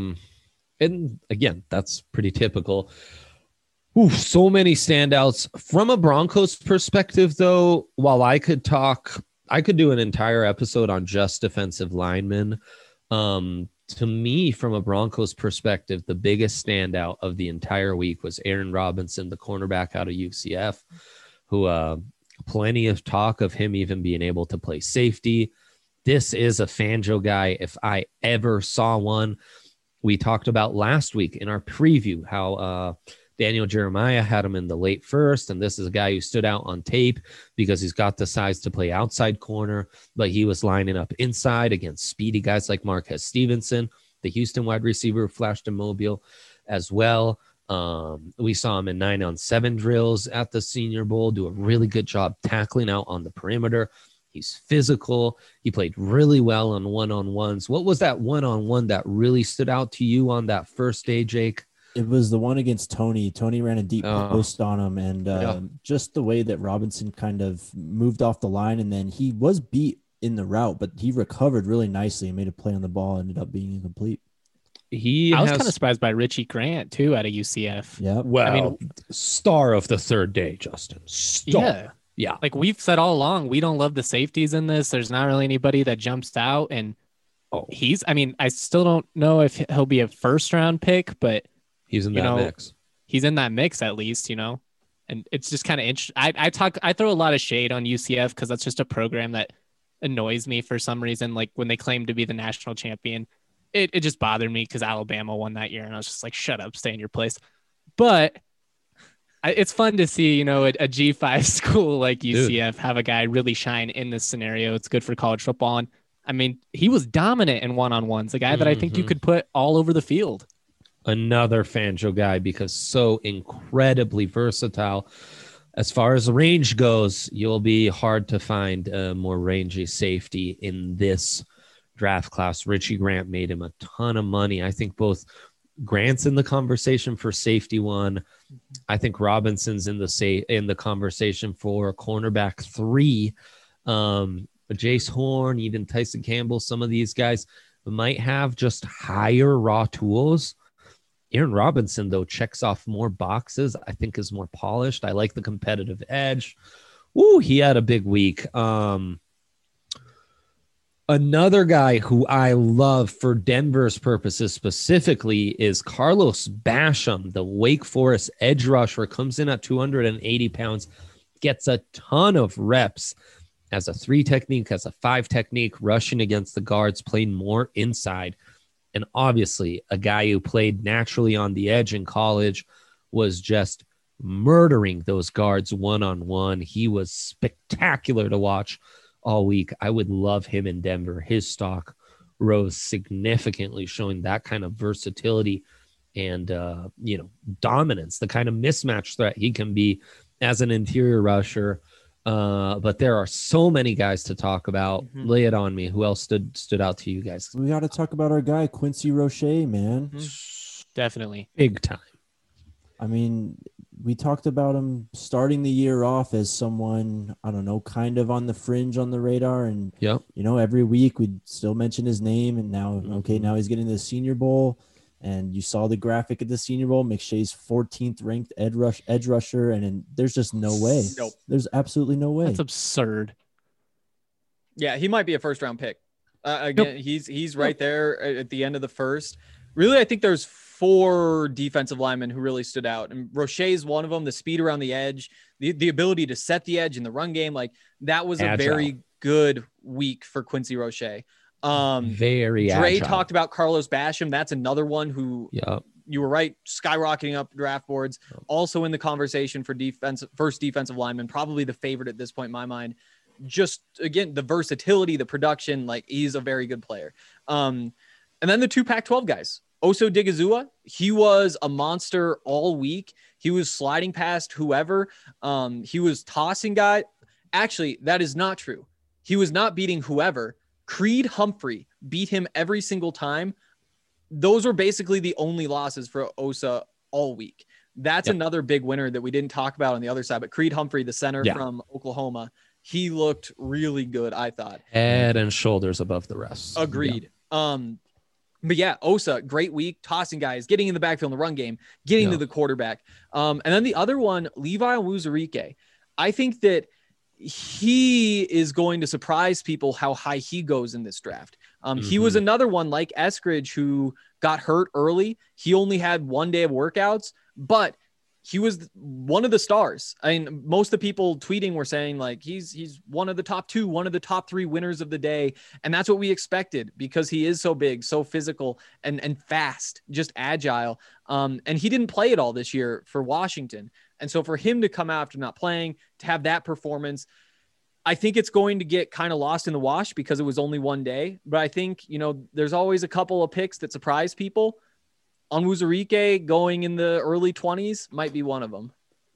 And again, that's pretty typical. Ooh, so many standouts from a Broncos perspective, though. While I could do an entire episode on just defensive linemen. To me, from a Broncos perspective, the biggest standout of the entire week was Aaron Robinson, the cornerback out of UCF, who plenty of talk of him even being able to play safety. This is a Fangio guy if I ever saw one. We talked about last week in our preview how Daniel Jeremiah had him in the late first, and this is a guy who stood out on tape because he's got the size to play outside corner, but he was lining up inside against speedy guys like Marquez Stevenson, the Houston wide receiver who flashed in Mobile as well. We saw him in 9-on-7 drills at the Senior Bowl, do a really good job tackling out on the perimeter. He's physical. He played really well on one-on-ones. What was that one-on-one that really stood out to you on that first day, Jake? It was the one against Tony. Tony ran a deep post on him, and just the way that Robinson kind of moved off the line, and then he was beat in the route, but he recovered really nicely and made a play on the ball, ended up being incomplete. I was kind of surprised by Richie Grant too out of UCF. Yeah. Well, I mean, star of the third day, Justin. Star. Yeah. Like we've said all along, we don't love the safeties in this. There's not really anybody that jumps out, and I still don't know if he'll be a first round pick, but He's in that mix. He's in that mix at least, and it's just kind of interesting. I throw a lot of shade on UCF because that's just a program that annoys me for some reason. Like when they claim to be the national champion, it just bothered me because Alabama won that year, and I was just like, shut up, stay in your place. But it's fun to see, a G5 school like UCF have a guy really shine in this scenario. It's good for college football. And I mean, he was dominant in one-on-ones, a guy that I think you could put all over the field. Another Fangio guy because so incredibly versatile. As far as range goes, you'll be hard to find a more rangy safety in this draft class. Richie Grant made him a ton of money. I think both Grant's in the conversation for safety one. I think Robinson's in the conversation for cornerback 3. Jace Horn, even Tyson Campbell, some of these guys might have just higher raw tools. Aaron Robinson, though, checks off more boxes. I think is more polished. I like the competitive edge. Ooh, he had a big week. Another guy who I love for Denver's purposes specifically is Carlos Basham, the Wake Forest edge rusher, comes in at 280 pounds, gets a ton of reps as a 3 technique, as a 5 technique, rushing against the guards, playing more inside. And obviously, a guy who played naturally on the edge in college was just murdering those guards one-on-one. He was spectacular to watch all week. I would love him in Denver. His stock rose significantly, showing that kind of versatility and, dominance, the kind of mismatch threat he can be as an interior rusher. But there are so many guys to talk about. Mm-hmm. Lay it on me. Who else stood out to you guys? We got to talk about our guy, Quincy Roche, man. Definitely. Big time. I mean, we talked about him starting the year off as someone, I don't know, kind of on the fringe on the radar. And, Yep. Every week we'd still mention his name. And now, now he's getting the Senior Bowl. And you saw the graphic at the Senior Bowl, McShay's 14th ranked edge rusher. And there's just no way. Nope. There's absolutely no way. That's absurd. Yeah, he might be a first round pick. Again, he's right there at the end of the first. Really, I think there's 4 defensive linemen who really stood out. And Roche's one of them, the speed around the edge, the ability to set the edge in the run game. Like that was a very good week for Quincy Roche. Very Dre agile. talked about Carlos Basham. That's another one who you were right, skyrocketing up draft boards. Also in the conversation for first defensive lineman, probably the favorite at this point in my mind. Just again, the versatility, the production, like he's a very good player. And then the 2 Pac-12 guys. Oso Digizua, he was a monster all week. He was sliding past whoever. He was tossing guy. Actually, that is not true. He was not beating whoever. Creed Humphrey beat him every single time. Those were basically the only losses for Osa all week. That's another big winner that we didn't talk about on the other side. But Creed Humphrey, the center from Oklahoma, he looked really good, I thought. Head and shoulders above the rest. Agreed. Yeah. But yeah, Osa, great week, tossing guys, getting in the backfield in the run game, getting to the quarterback. And then the other one, Levi Onwuzurike. I think that he is going to surprise people how high he goes in this draft. He was another one like Eskridge who got hurt early. He only had 1 day of workouts, but he was one of the stars. I mean, most of the people tweeting were saying like he's one of the top 2, one of the top 3 winners of the day. And that's what we expected because he is so big, so physical and fast, just agile. And he didn't play at all this year for Washington. And so for him to come out after not playing, to have that performance, I think it's going to get kind of lost in the wash because it was only 1 day. But I think, there's always a couple of picks that surprise people. Onwuzurike going in the early 20s might be one of them.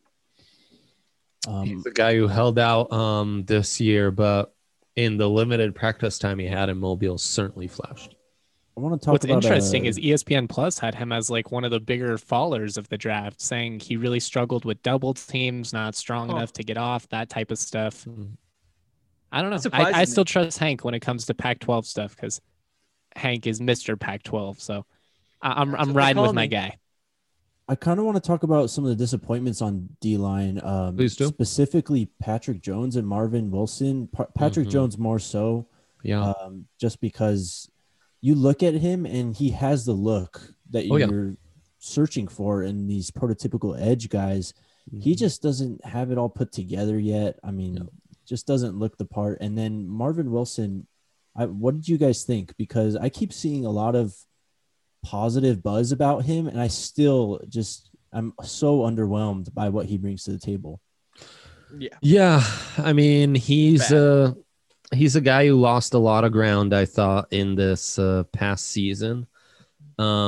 He's the guy who held out this year, but in the limited practice time he had in Mobile, certainly flashed. I want to talk What's about interesting is ESPN Plus had him as like one of the bigger fallers of the draft, saying he really struggled with double teams, not strong enough to get off, that type of stuff. I don't know. I still trust Hank when it comes to Pac-12 stuff because Hank is Mr. Pac-12. So I'm riding with my guy. I kind of want to talk about some of the disappointments on D-line. Please do. Specifically Patrick Jones and Marvin Wilson. Patrick Jones more so. Yeah. Just because you look at him and he has the look that you're searching for in these prototypical edge guys. He just doesn't have it all put together yet. I mean, just doesn't look the part. And then Marvin Wilson, what did you guys think? Because I keep seeing a lot of positive buzz about him, and I'm so underwhelmed by what he brings to the table. Yeah. I mean, he's a guy who lost a lot of ground, I thought, in this past season. I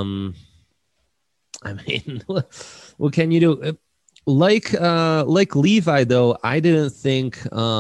mean, what can you do? Like Levi, though, I didn't think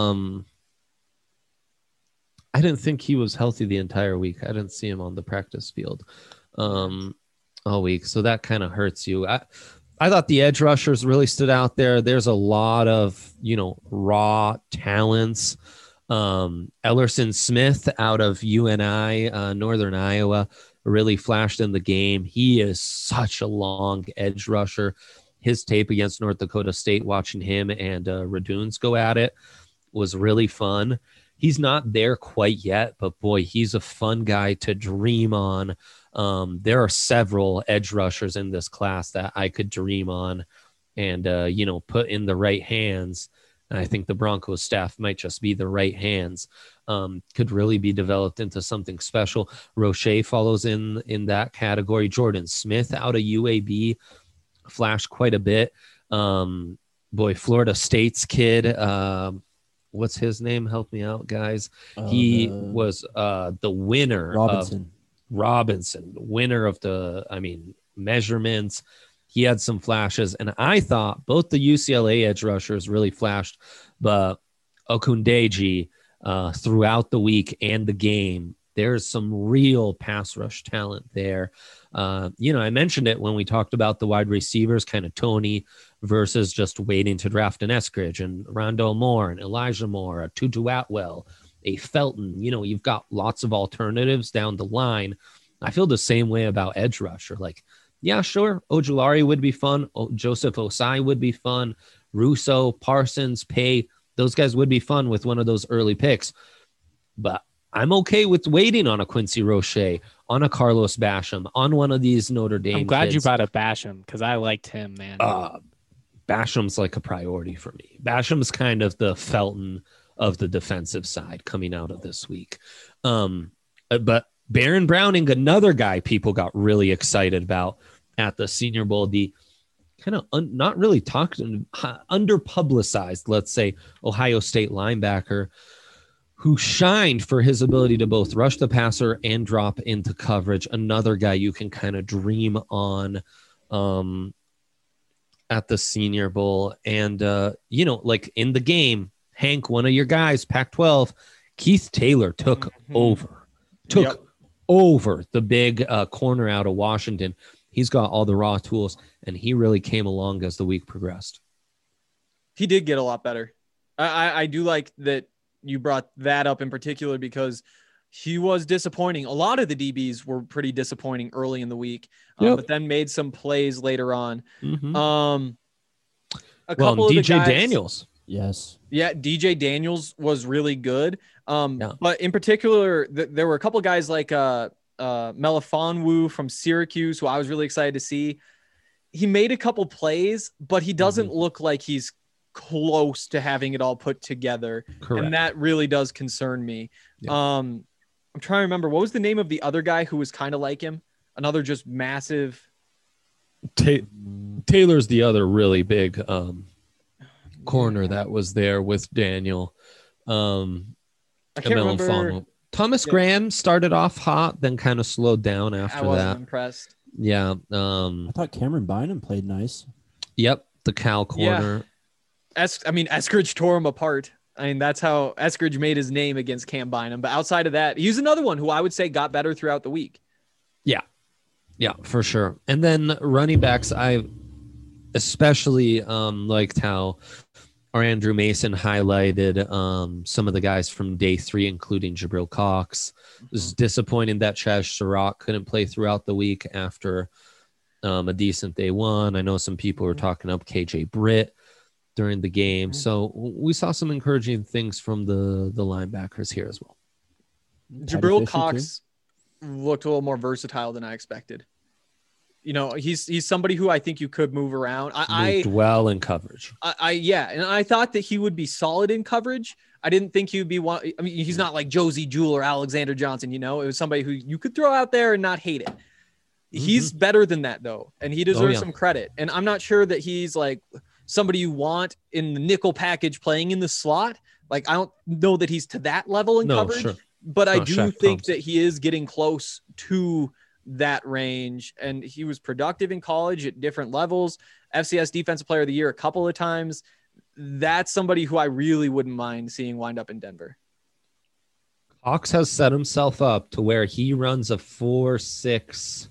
he was healthy the entire week. I didn't see him on the practice field all week, so that kind of hurts you. I thought the edge rushers really stood out there. There's a lot of raw talents. Ellerson Smith out of UNI, Northern Iowa, really flashed in the game. He is such a long edge rusher. His tape against North Dakota State, watching him and Raduns go at it, was really fun. He's not there quite yet, but boy, he's a fun guy to dream on. There are several edge rushers in this class that I could dream on and, put in the right hands. And I think the Broncos staff might just be the right hands. Could really be developed into something special. Roche follows in that category. Jordan Smith out of UAB flashed quite a bit. Florida State's kid. What's his name? Help me out, guys. He was the winner. Robinson, winner of the measurements. He had some flashes, and I thought both the UCLA edge rushers really flashed, but Okundeji throughout the week and the game, there's some real pass rush talent there. I mentioned it when we talked about the wide receivers, kind of Tony versus just waiting to draft an Eskridge, and Rondell Moore and Elijah Moore, a Tutu Atwell, a Felton. You've got lots of alternatives down the line. I feel the same way about edge rusher. Like, yeah, sure, Ojulari would be fun. Joseph Osai would be fun. Russo, Parsons, Pay, those guys would be fun with one of those early picks. But I'm okay with waiting on a Quincy Roche, on a Carlos Basham, on one of these Notre Dame I'm glad kids. you brought up Basham because I liked him, man. Basham's like a priority for me. Basham's kind of the Felton of the defensive side coming out of this week. But Baron Browning, another guy people got really excited about at the Senior Bowl, the kind of not really talked, under-publicized, let's say, Ohio State linebacker who shined for his ability to both rush the passer and drop into coverage. Another guy you can kind of dream on at the Senior Bowl. And, like in the game, Hank, one of your guys, Pac-12, Keith Taylor took over the big corner out of Washington. He's got all the raw tools, and he really came along as the week progressed. He did get a lot better. I do like that you brought that up in particular because he was disappointing. A lot of the DBs were pretty disappointing early in the week, but then made some plays later on. Mm-hmm. A couple of DJ the guys, Daniels. Yes. Yeah, DJ Daniels was really good. But in particular, there were a couple of guys like Melifonwu from Syracuse, who I was really excited to see. He made a couple plays, but he doesn't look like he's close to having it all put together. Correct. And that really does concern me. Yeah. I'm trying to remember, what was the name of the other guy who was kind of like him? Another just massive. Taylor's the other really big corner that was there with Daniel. I can't remember. Thomas Graham started off hot, then kind of slowed down after that. I wasn't impressed. Yeah. I thought Cameron Bynum played nice. Yep. The Cal corner. Yeah. Eskridge tore him apart. I mean, that's how Eskridge made his name against Cam Bynum. But outside of that, he's another one who I would say got better throughout the week. Yeah. Yeah, for sure. And then running backs, I especially liked how our Andrew Mason highlighted some of the guys from day 3, including Jabril Cox. It was disappointing that Chaz Surratt couldn't play throughout the week after a decent day 1. I know some people were talking up KJ Britt during the game. So we saw some encouraging things from the linebackers here as well. Jabril Cox looked a little more versatile than I expected. He's somebody who I think you could move around. Moved well in coverage. And I thought that he would be solid in coverage. I didn't think he would be one. I mean, he's not like Josie Jewell or Alexander Johnson, it was somebody who you could throw out there and not hate it. He's better than that though. And he deserves some credit. And I'm not sure that he's like somebody you want in the nickel package playing in the slot. Like, I don't know that he's to that level in coverage, sure. But I do think that he is getting close to that range, and he was productive in college at different levels. FCS Defensive Player of the Year a couple of times. That's somebody who I really wouldn't mind seeing wind up in Denver. Cox has set himself up to where he runs a 4.65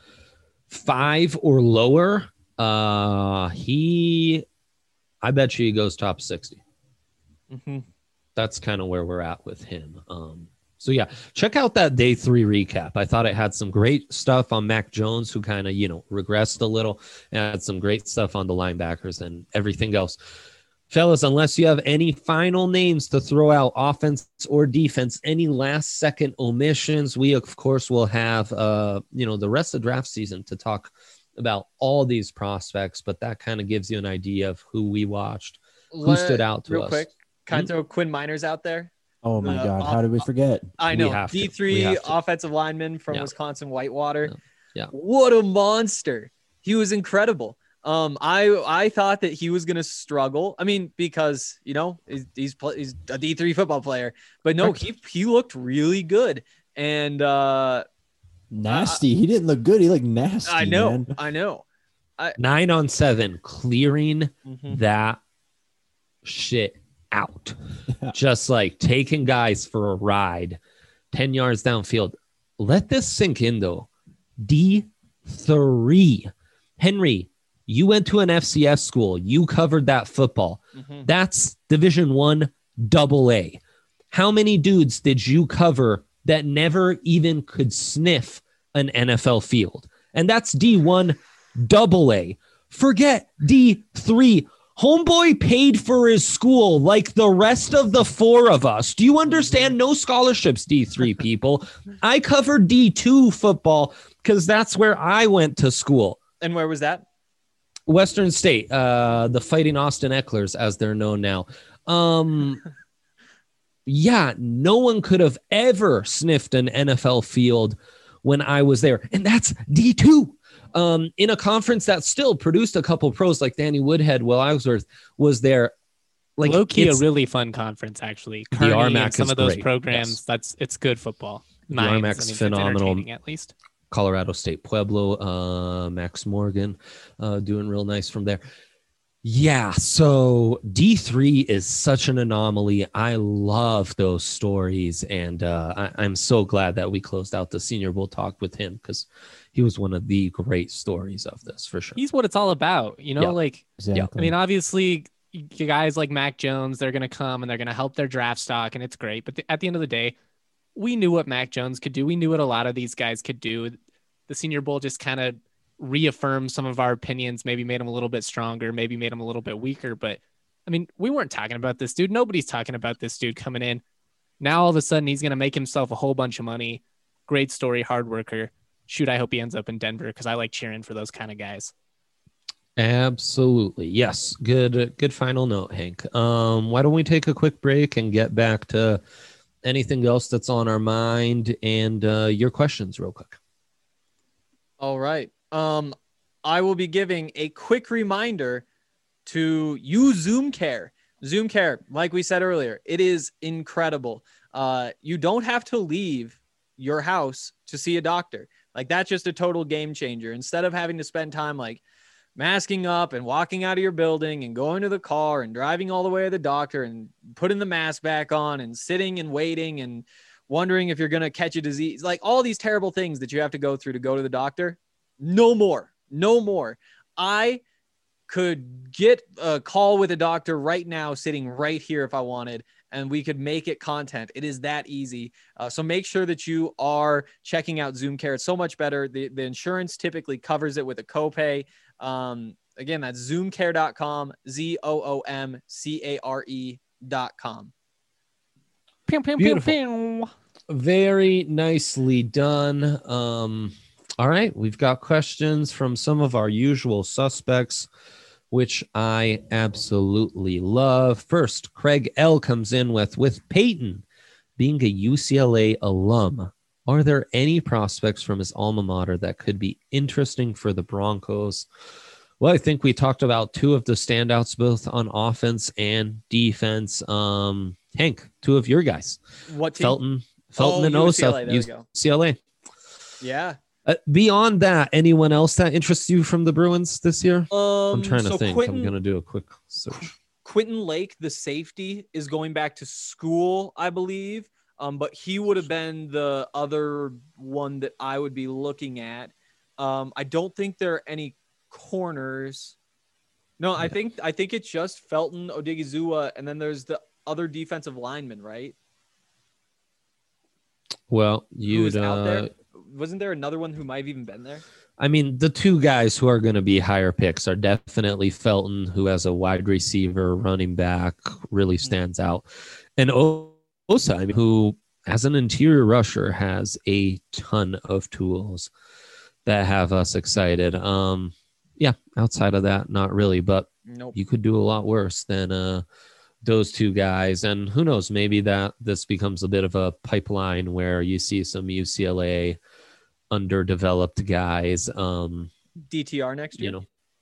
or lower. I bet you he goes top 60. That's kind of where we're at with him. So yeah, check out that day 3 recap. I thought it had some great stuff on Mac Jones, who kind of, regressed a little, and had some great stuff on the linebackers and everything else. Fellas, unless you have any final names to throw out, offense or defense, any last second omissions, we of course will have, the rest of draft season to talk about all these prospects, but that kind of gives you an idea of who we watched. Who stood out to real us? quick? Kind of throw Quinn Miners out there. Oh my The God, how did we forget? I We know have to. We D3 have to. offensive lineman from Yeah. Wisconsin Whitewater. Yeah. What a monster! He was incredible. I thought that he was gonna struggle. I mean, because he's a D3 football player, but no, he looked really good. And Nasty. He didn't look good. He looked nasty. I know, Man. I know. 9-on-7, clearing Mhm. that shit out. Yeah. Just like taking guys for a ride 10 yards downfield. Let this sink in though. D3. Henry, you went to an FCS school. You covered that football. Mhm. That's Division 1 AA. How many dudes did you cover that never even could sniff an NFL field? And that's D1 AA. Forget D3. Homeboy paid for his school like the rest of the four of us. Do you understand? No scholarships, D3 people. I covered D2 football because that's where I went to school. And where was that? Western State, the Fighting Austin Ecklers, as they're known now. Yeah, no one could have ever sniffed an NFL field when I was there. And that's D2. In a conference that still produced a couple pros like Danny Woodhead, Will Ellsworth was there. Like Low-key, a it's- really fun conference, actually. The Kearney RMAC and some is of those great, programs, yes. it's good football. The Nice. RMAC's I mean, it's phenomenal. entertaining, at least. Colorado State Pueblo, Max Morgan doing real nice from there. Yeah, so D3 is such an anomaly. I love those stories, and I'm so glad that we closed out the Senior Bowl talk with him because he was one of the great stories of this for sure. He's what it's all about, you know. Yeah. Like, Exactly. I mean, obviously, you guys like Mac Jones, they're gonna come and they're gonna help their draft stock, and it's great. But at the end of the day, we knew what Mac Jones could do. We knew what a lot of these guys could do. The Senior Bowl just kind of reaffirmed some of our opinions, maybe made them a little bit stronger, maybe made them a little bit weaker. But I mean, we weren't talking about this dude. Nobody's talking about this dude coming in. Now all of a sudden he's going to make himself a whole bunch of money. Great story, hard worker. Shoot, I hope he ends up in Denver because I like cheering for those kind of guys. Absolutely. Yes. Good final note, Hank. Why don't we take a quick break and get back to anything else that's on our mind and your questions real quick. All right. I will be giving a quick reminder to use Zoom Care. Zoom Care, like we said earlier, it is incredible. You don't have to leave your house to see a doctor. Like, that's just a total game changer. Instead of having to spend time like masking up and walking out of your building and going to the car and driving all the way to the doctor and putting the mask back on and sitting and waiting and wondering if you're going to catch a disease, like all these terrible things that you have to go through to go to the doctor. No more. I could get a call with a doctor right now, sitting right here if I wanted, and we could make it content. It is that easy. So make sure that you are checking out Zoom Care. It's so much better. The insurance typically covers it with a copay. Again, that's zoomcare.com, ZOOMCARE.com. Pew, pew, pew, Beautiful. pew. Very nicely done. All right, we've got questions from some of our usual suspects, which I absolutely love. First, Craig L comes in with Peyton being a UCLA alum, are there any prospects from his alma mater that could be interesting for the Broncos? Well, I think we talked about two of the standouts, both on offense and defense. Hank, two of your guys, What team? Felton and Osa, UCLA, there we go. UCLA. Yeah. Beyond that, anyone else that interests you from the Bruins this year? I'm trying to so think. I'm going to do a quick search. Quentin Lake, the safety, is going back to school, I believe. But he would have been the other one that I would be looking at. I don't think there are any corners. No, I think it's just Felton, Odigizua, and then there's the other defensive lineman, right? Well, Who you'd was out there? Wasn't there another one who might have even been there? I mean, the two guys who are going to be higher picks are definitely Felton, who has a wide receiver, running back, really stands out, and Osa, I mean, who as an interior rusher has a ton of tools that have us excited. Yeah, outside of that, not really, but Nope. you could do a lot worse than those two guys. And who knows, maybe that this becomes a bit of a pipeline where you see some UCLA underdeveloped guys. DTR next year.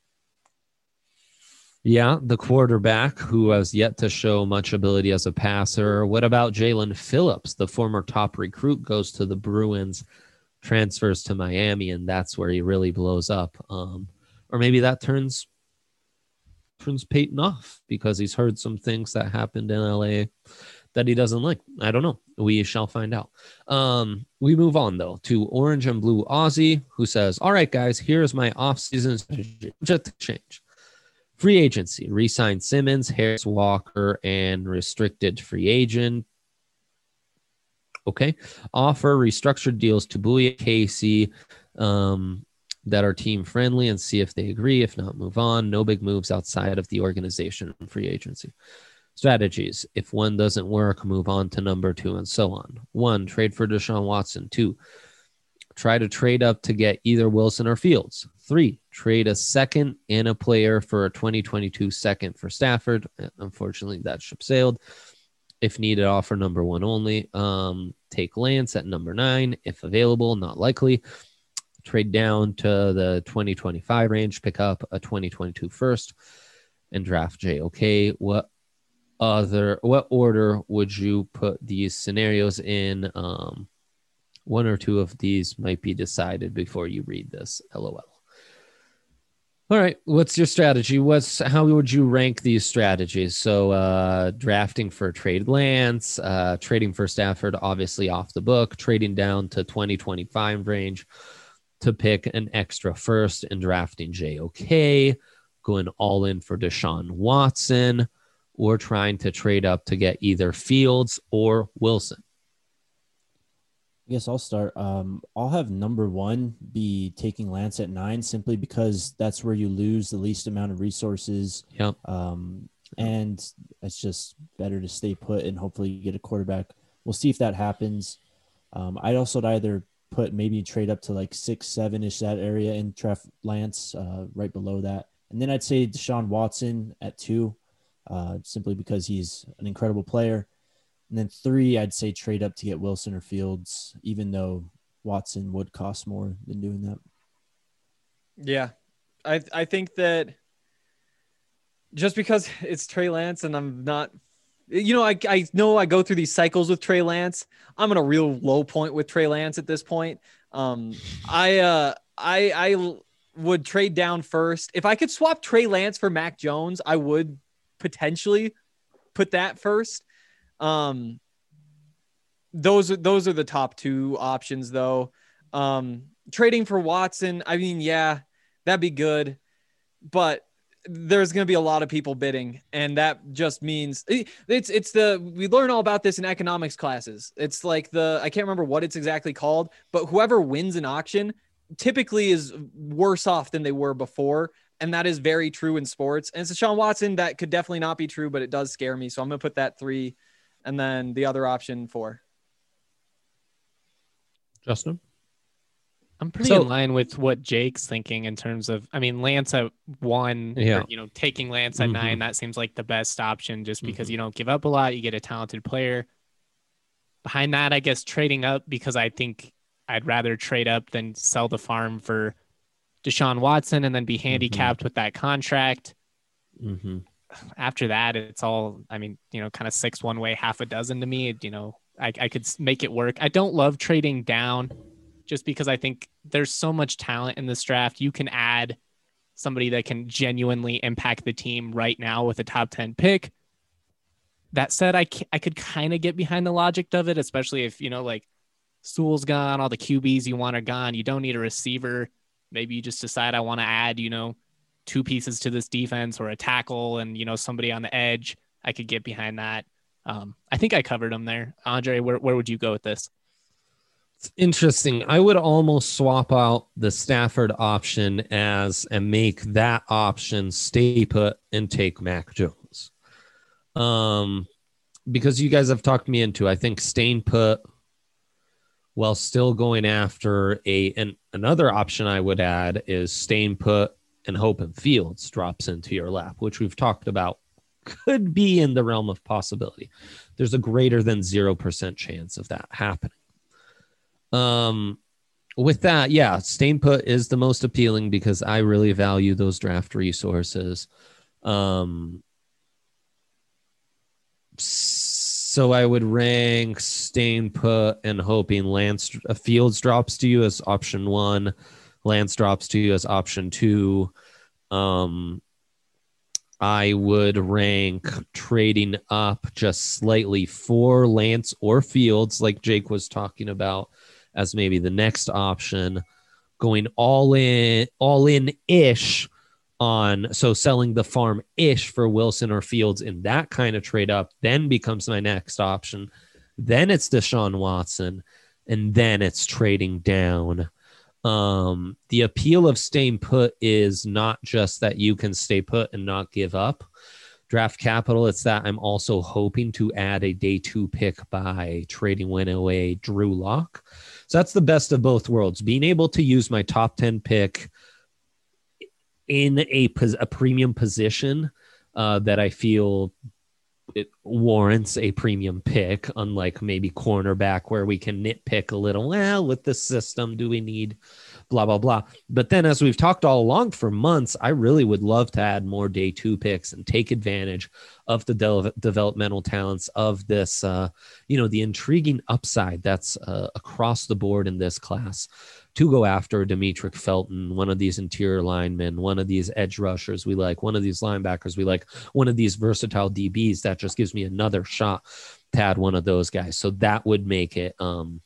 Yeah, the quarterback who has yet to show much ability as a passer. What about Jalen Phillips, the former top recruit, goes to the Bruins, transfers to Miami, and that's where he really blows up. Or maybe that turns Peyton off because he's heard some things that happened in LA that he doesn't like. I don't know. We shall find out. We move on, though, to Orange and Blue Aussie, who says, all right, guys, here's my offseason strategy. Just to change. Free agency, re-sign Simmons, Harris, Walker, and restricted free agent. Okay. Offer restructured deals to Bouye, Casey, that are team friendly and see if they agree. If not, move on. No big moves outside of the organization and free agency. Strategies. If one doesn't work, move on to number 2 and so on. 1, trade for Deshaun Watson. 2, try to trade up to get either Wilson or Fields. 3, trade a second and a player for a 2022 second for Stafford. Unfortunately, that ship sailed. If needed, offer number 1 only. Take Lance at number 9, if available, not likely. Trade down to the 2025 range, pick up a 2022 first, and draft JOK. What order would you put these scenarios in? 1 or 2 of these might be decided before you read this. LOL. All right. What's your strategy? How would you rank these strategies? So drafting for trade Lance, trading for Stafford, obviously off the book, trading down to 2025 range to pick an extra first and drafting JOK, going all in for Deshaun Watson, or trying to trade up to get either Fields or Wilson. I guess I'll start. I'll have number 1 be taking Lance at 9, simply because that's where you lose the least amount of resources. Yep. And it's just better to stay put and hopefully you get a quarterback. We'll see if that happens. I'd also either maybe trade up to like 6, 7-ish, that area, and draft Lance right below that. And then I'd say Deshaun Watson at 2, simply because he's an incredible player. And then 3, I'd say trade up to get Wilson or Fields, even though Watson would cost more than doing that. Yeah. I think that just because it's Trey Lance and I'm not, I know I go through these cycles with Trey Lance. I'm in a real low point with Trey Lance at this point. I would trade down first. If I could swap Trey Lance for Mac Jones, I would potentially put that first. Those are the top 2 options, though. Trading for Watson, I mean, yeah, that'd be good, but there's going to be a lot of people bidding, and that just means we learn all about this in economics classes. It's like I can't remember what it's exactly called, but whoever wins an auction typically is worse off than they were before. And that is very true in sports. And it's Deshaun Watson. That could definitely not be true, but it does scare me. So I'm going to put that 3 and then the other option 4. Justin? I'm pretty in line with what Jake's thinking in terms of, Lance at 1, or, taking Lance at 9, that seems like the best option just because you don't give up a lot. You get a talented player. Behind that, I guess trading up, because I think I'd rather trade up than sell the farm for Deshaun Watson and then be handicapped with that contract. After that, it's all, kind of 6 one way, half a dozen to me. I could make it work. I don't love trading down just because I think there's so much talent in this draft. You can add somebody that can genuinely impact the team right now with a top 10 pick. That said, I could kind of get behind the logic of it, especially if, like Sewell's gone, all the QBs you want are gone. You don't need a receiver. Maybe you just decide I want to add, 2 pieces to this defense or a tackle and, somebody on the edge. I could get behind that. I think I covered them there. Andre, where would you go with this? It's interesting. I would almost swap out the Stafford option and make that option stay put and take Mac Jones. Because you guys have talked me into, I think staying put while still going after another option I would add is staying put and hoping Fields drops into your lap, which we've talked about could be in the realm of possibility. There's a greater than 0% chance of that happening. With that, yeah, staying put is the most appealing because I really value those draft resources. So I would rank staying put and hoping Fields drops to you as option 1, Lance drops to you as option 2. I would rank trading up just slightly for Lance or Fields, like Jake was talking about, as maybe the next option. Going all in ish on, so selling the farm ish for Wilson or Fields in that kind of trade up then becomes my next option. Then it's Deshaun Watson, and then it's trading down. The appeal of staying put is not just that you can stay put and not give up draft capital. It's that I'm also hoping to add a day 2 pick by trading away Drew Lock. So that's the best of both worlds, being able to use my top 10 pick in a premium position that I feel it warrants a premium pick, unlike maybe cornerback where we can nitpick a little. Well, with this system, do we need blah, blah, blah. But then as we've talked all along for months, I really would love to add more day 2 picks and take advantage of the developmental talents of this, the intriguing upside that's across the board in this class, to go after Demetric Felton, one of these interior linemen, one of these edge rushers we like, one of these linebackers we like, one of these versatile DBs. That just gives me another shot to add one of those guys. So that would make it,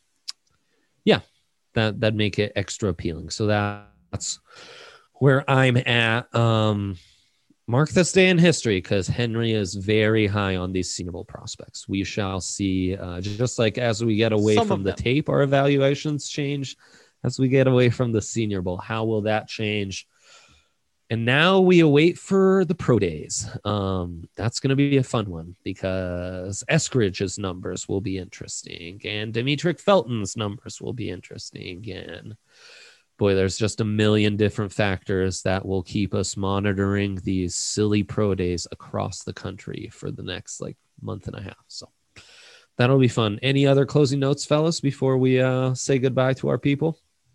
that'd make it extra appealing. So that's where I'm at. Mark this day in history, because Henry is very high on these Senior Bowl prospects. We shall see. Just like as we get away from the tape, our evaluations change. As we get away from the Senior Bowl, how will that change? And now we await for the pro days. That's going to be a fun one because Eskridge's numbers will be interesting, and Demetric Felton's numbers will be interesting. And boy, there's just a million different factors that will keep us monitoring these silly pro days across the country for the next month and a half. So that'll be fun. Any other closing notes, fellas, before we say goodbye to our people?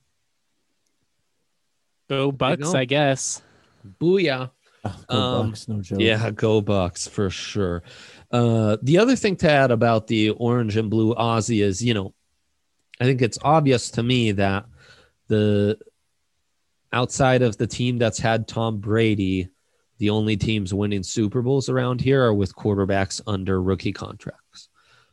Go Bucks, I guess. Booyah. Go Bucks, no joke. Yeah, go Bucks for sure. The other thing to add about the orange and blue Aussie is, I think it's obvious to me that the outside of the team that's had Tom Brady, the only teams winning Super Bowls around here are with quarterbacks under rookie contracts.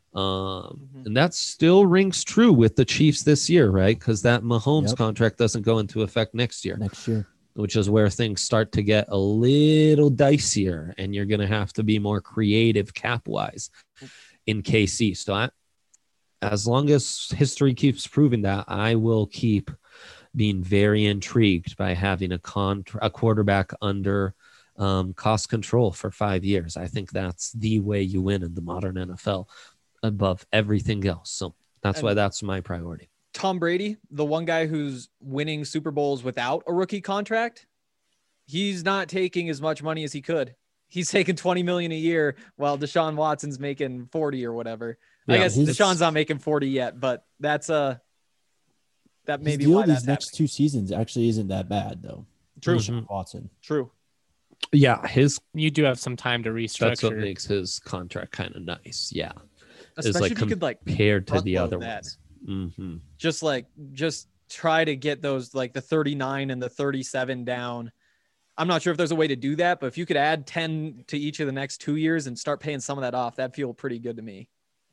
And that still rings true with the Chiefs this year, right? Because that Mahomes contract doesn't go into effect next year, which is where things start to get a little dicier, and you're going to have to be more creative cap-wise in KC. So as long as history keeps proving that, I will keep being very intrigued by having a quarterback under cost control for 5 years. I think that's the way you win in the modern NFL above everything else. So that's why that's my priority. Tom Brady, the one guy who's winning Super Bowls without a rookie contract, he's not taking as much money as he could. He's taking $20 million a year while Deshaun Watson's making 40 or whatever. Yeah, I guess Deshaun's not making 40 yet, but that's that may be why these next 2 seasons actually isn't that bad though. True. Deshaun Watson. True. Yeah, you do have some time to restructure. That's what makes his contract kind of nice. Yeah. Especially if you could compared to the other that. ones. Mm-hmm. Just try to get those the 39 and the 37 down. I'm not sure if there's a way to do that, but if you could add 10 to each of the next 2 years and start paying some of that off, that'd feel pretty good to me.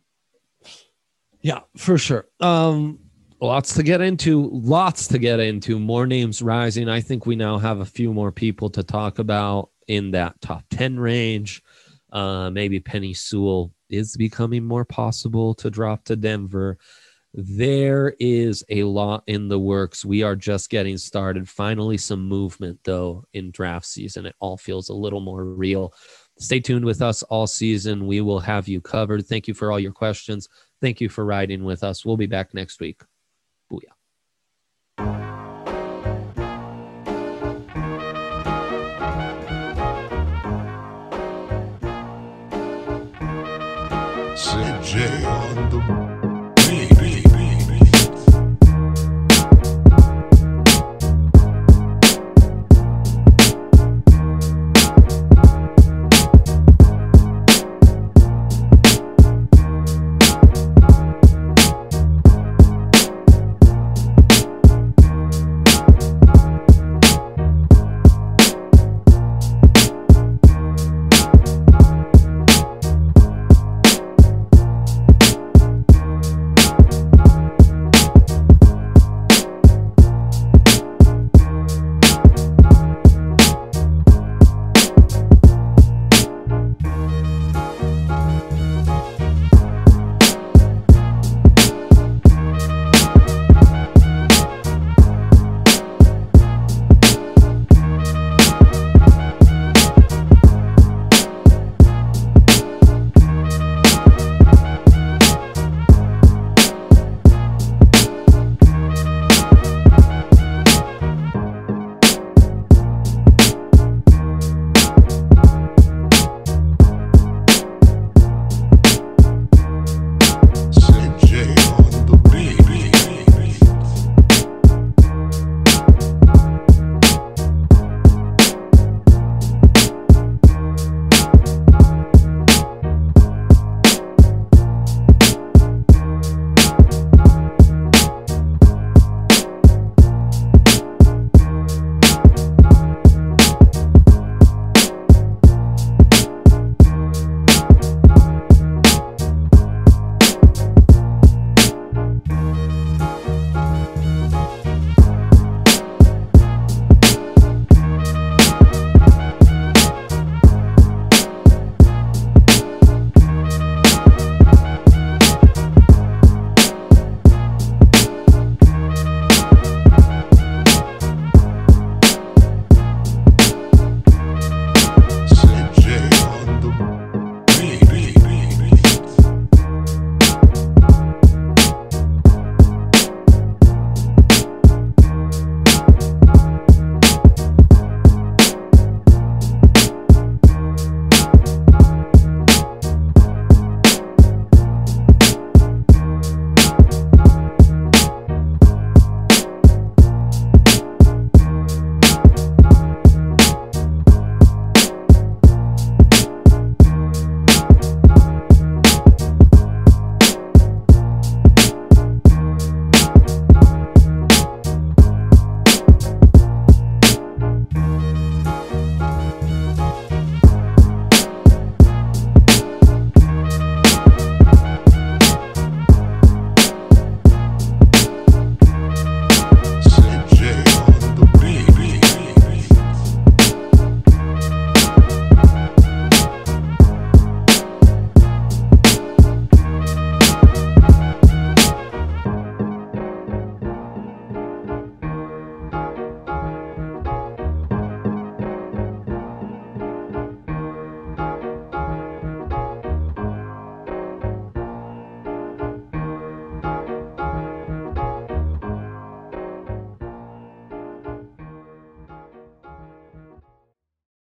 Yeah, for sure. Lots to get into. More names rising. I think we now have a few more people to talk about in that top 10 range. Maybe Penny Sewell is becoming more possible to drop to Denver. There is a lot in the works. We are just getting started. Finally, some movement, though, in draft season. It all feels a little more real. Stay tuned with us all season. We will have you covered. Thank you for all your questions. Thank you for riding with us. We'll be back next week. Booyah. CJ on the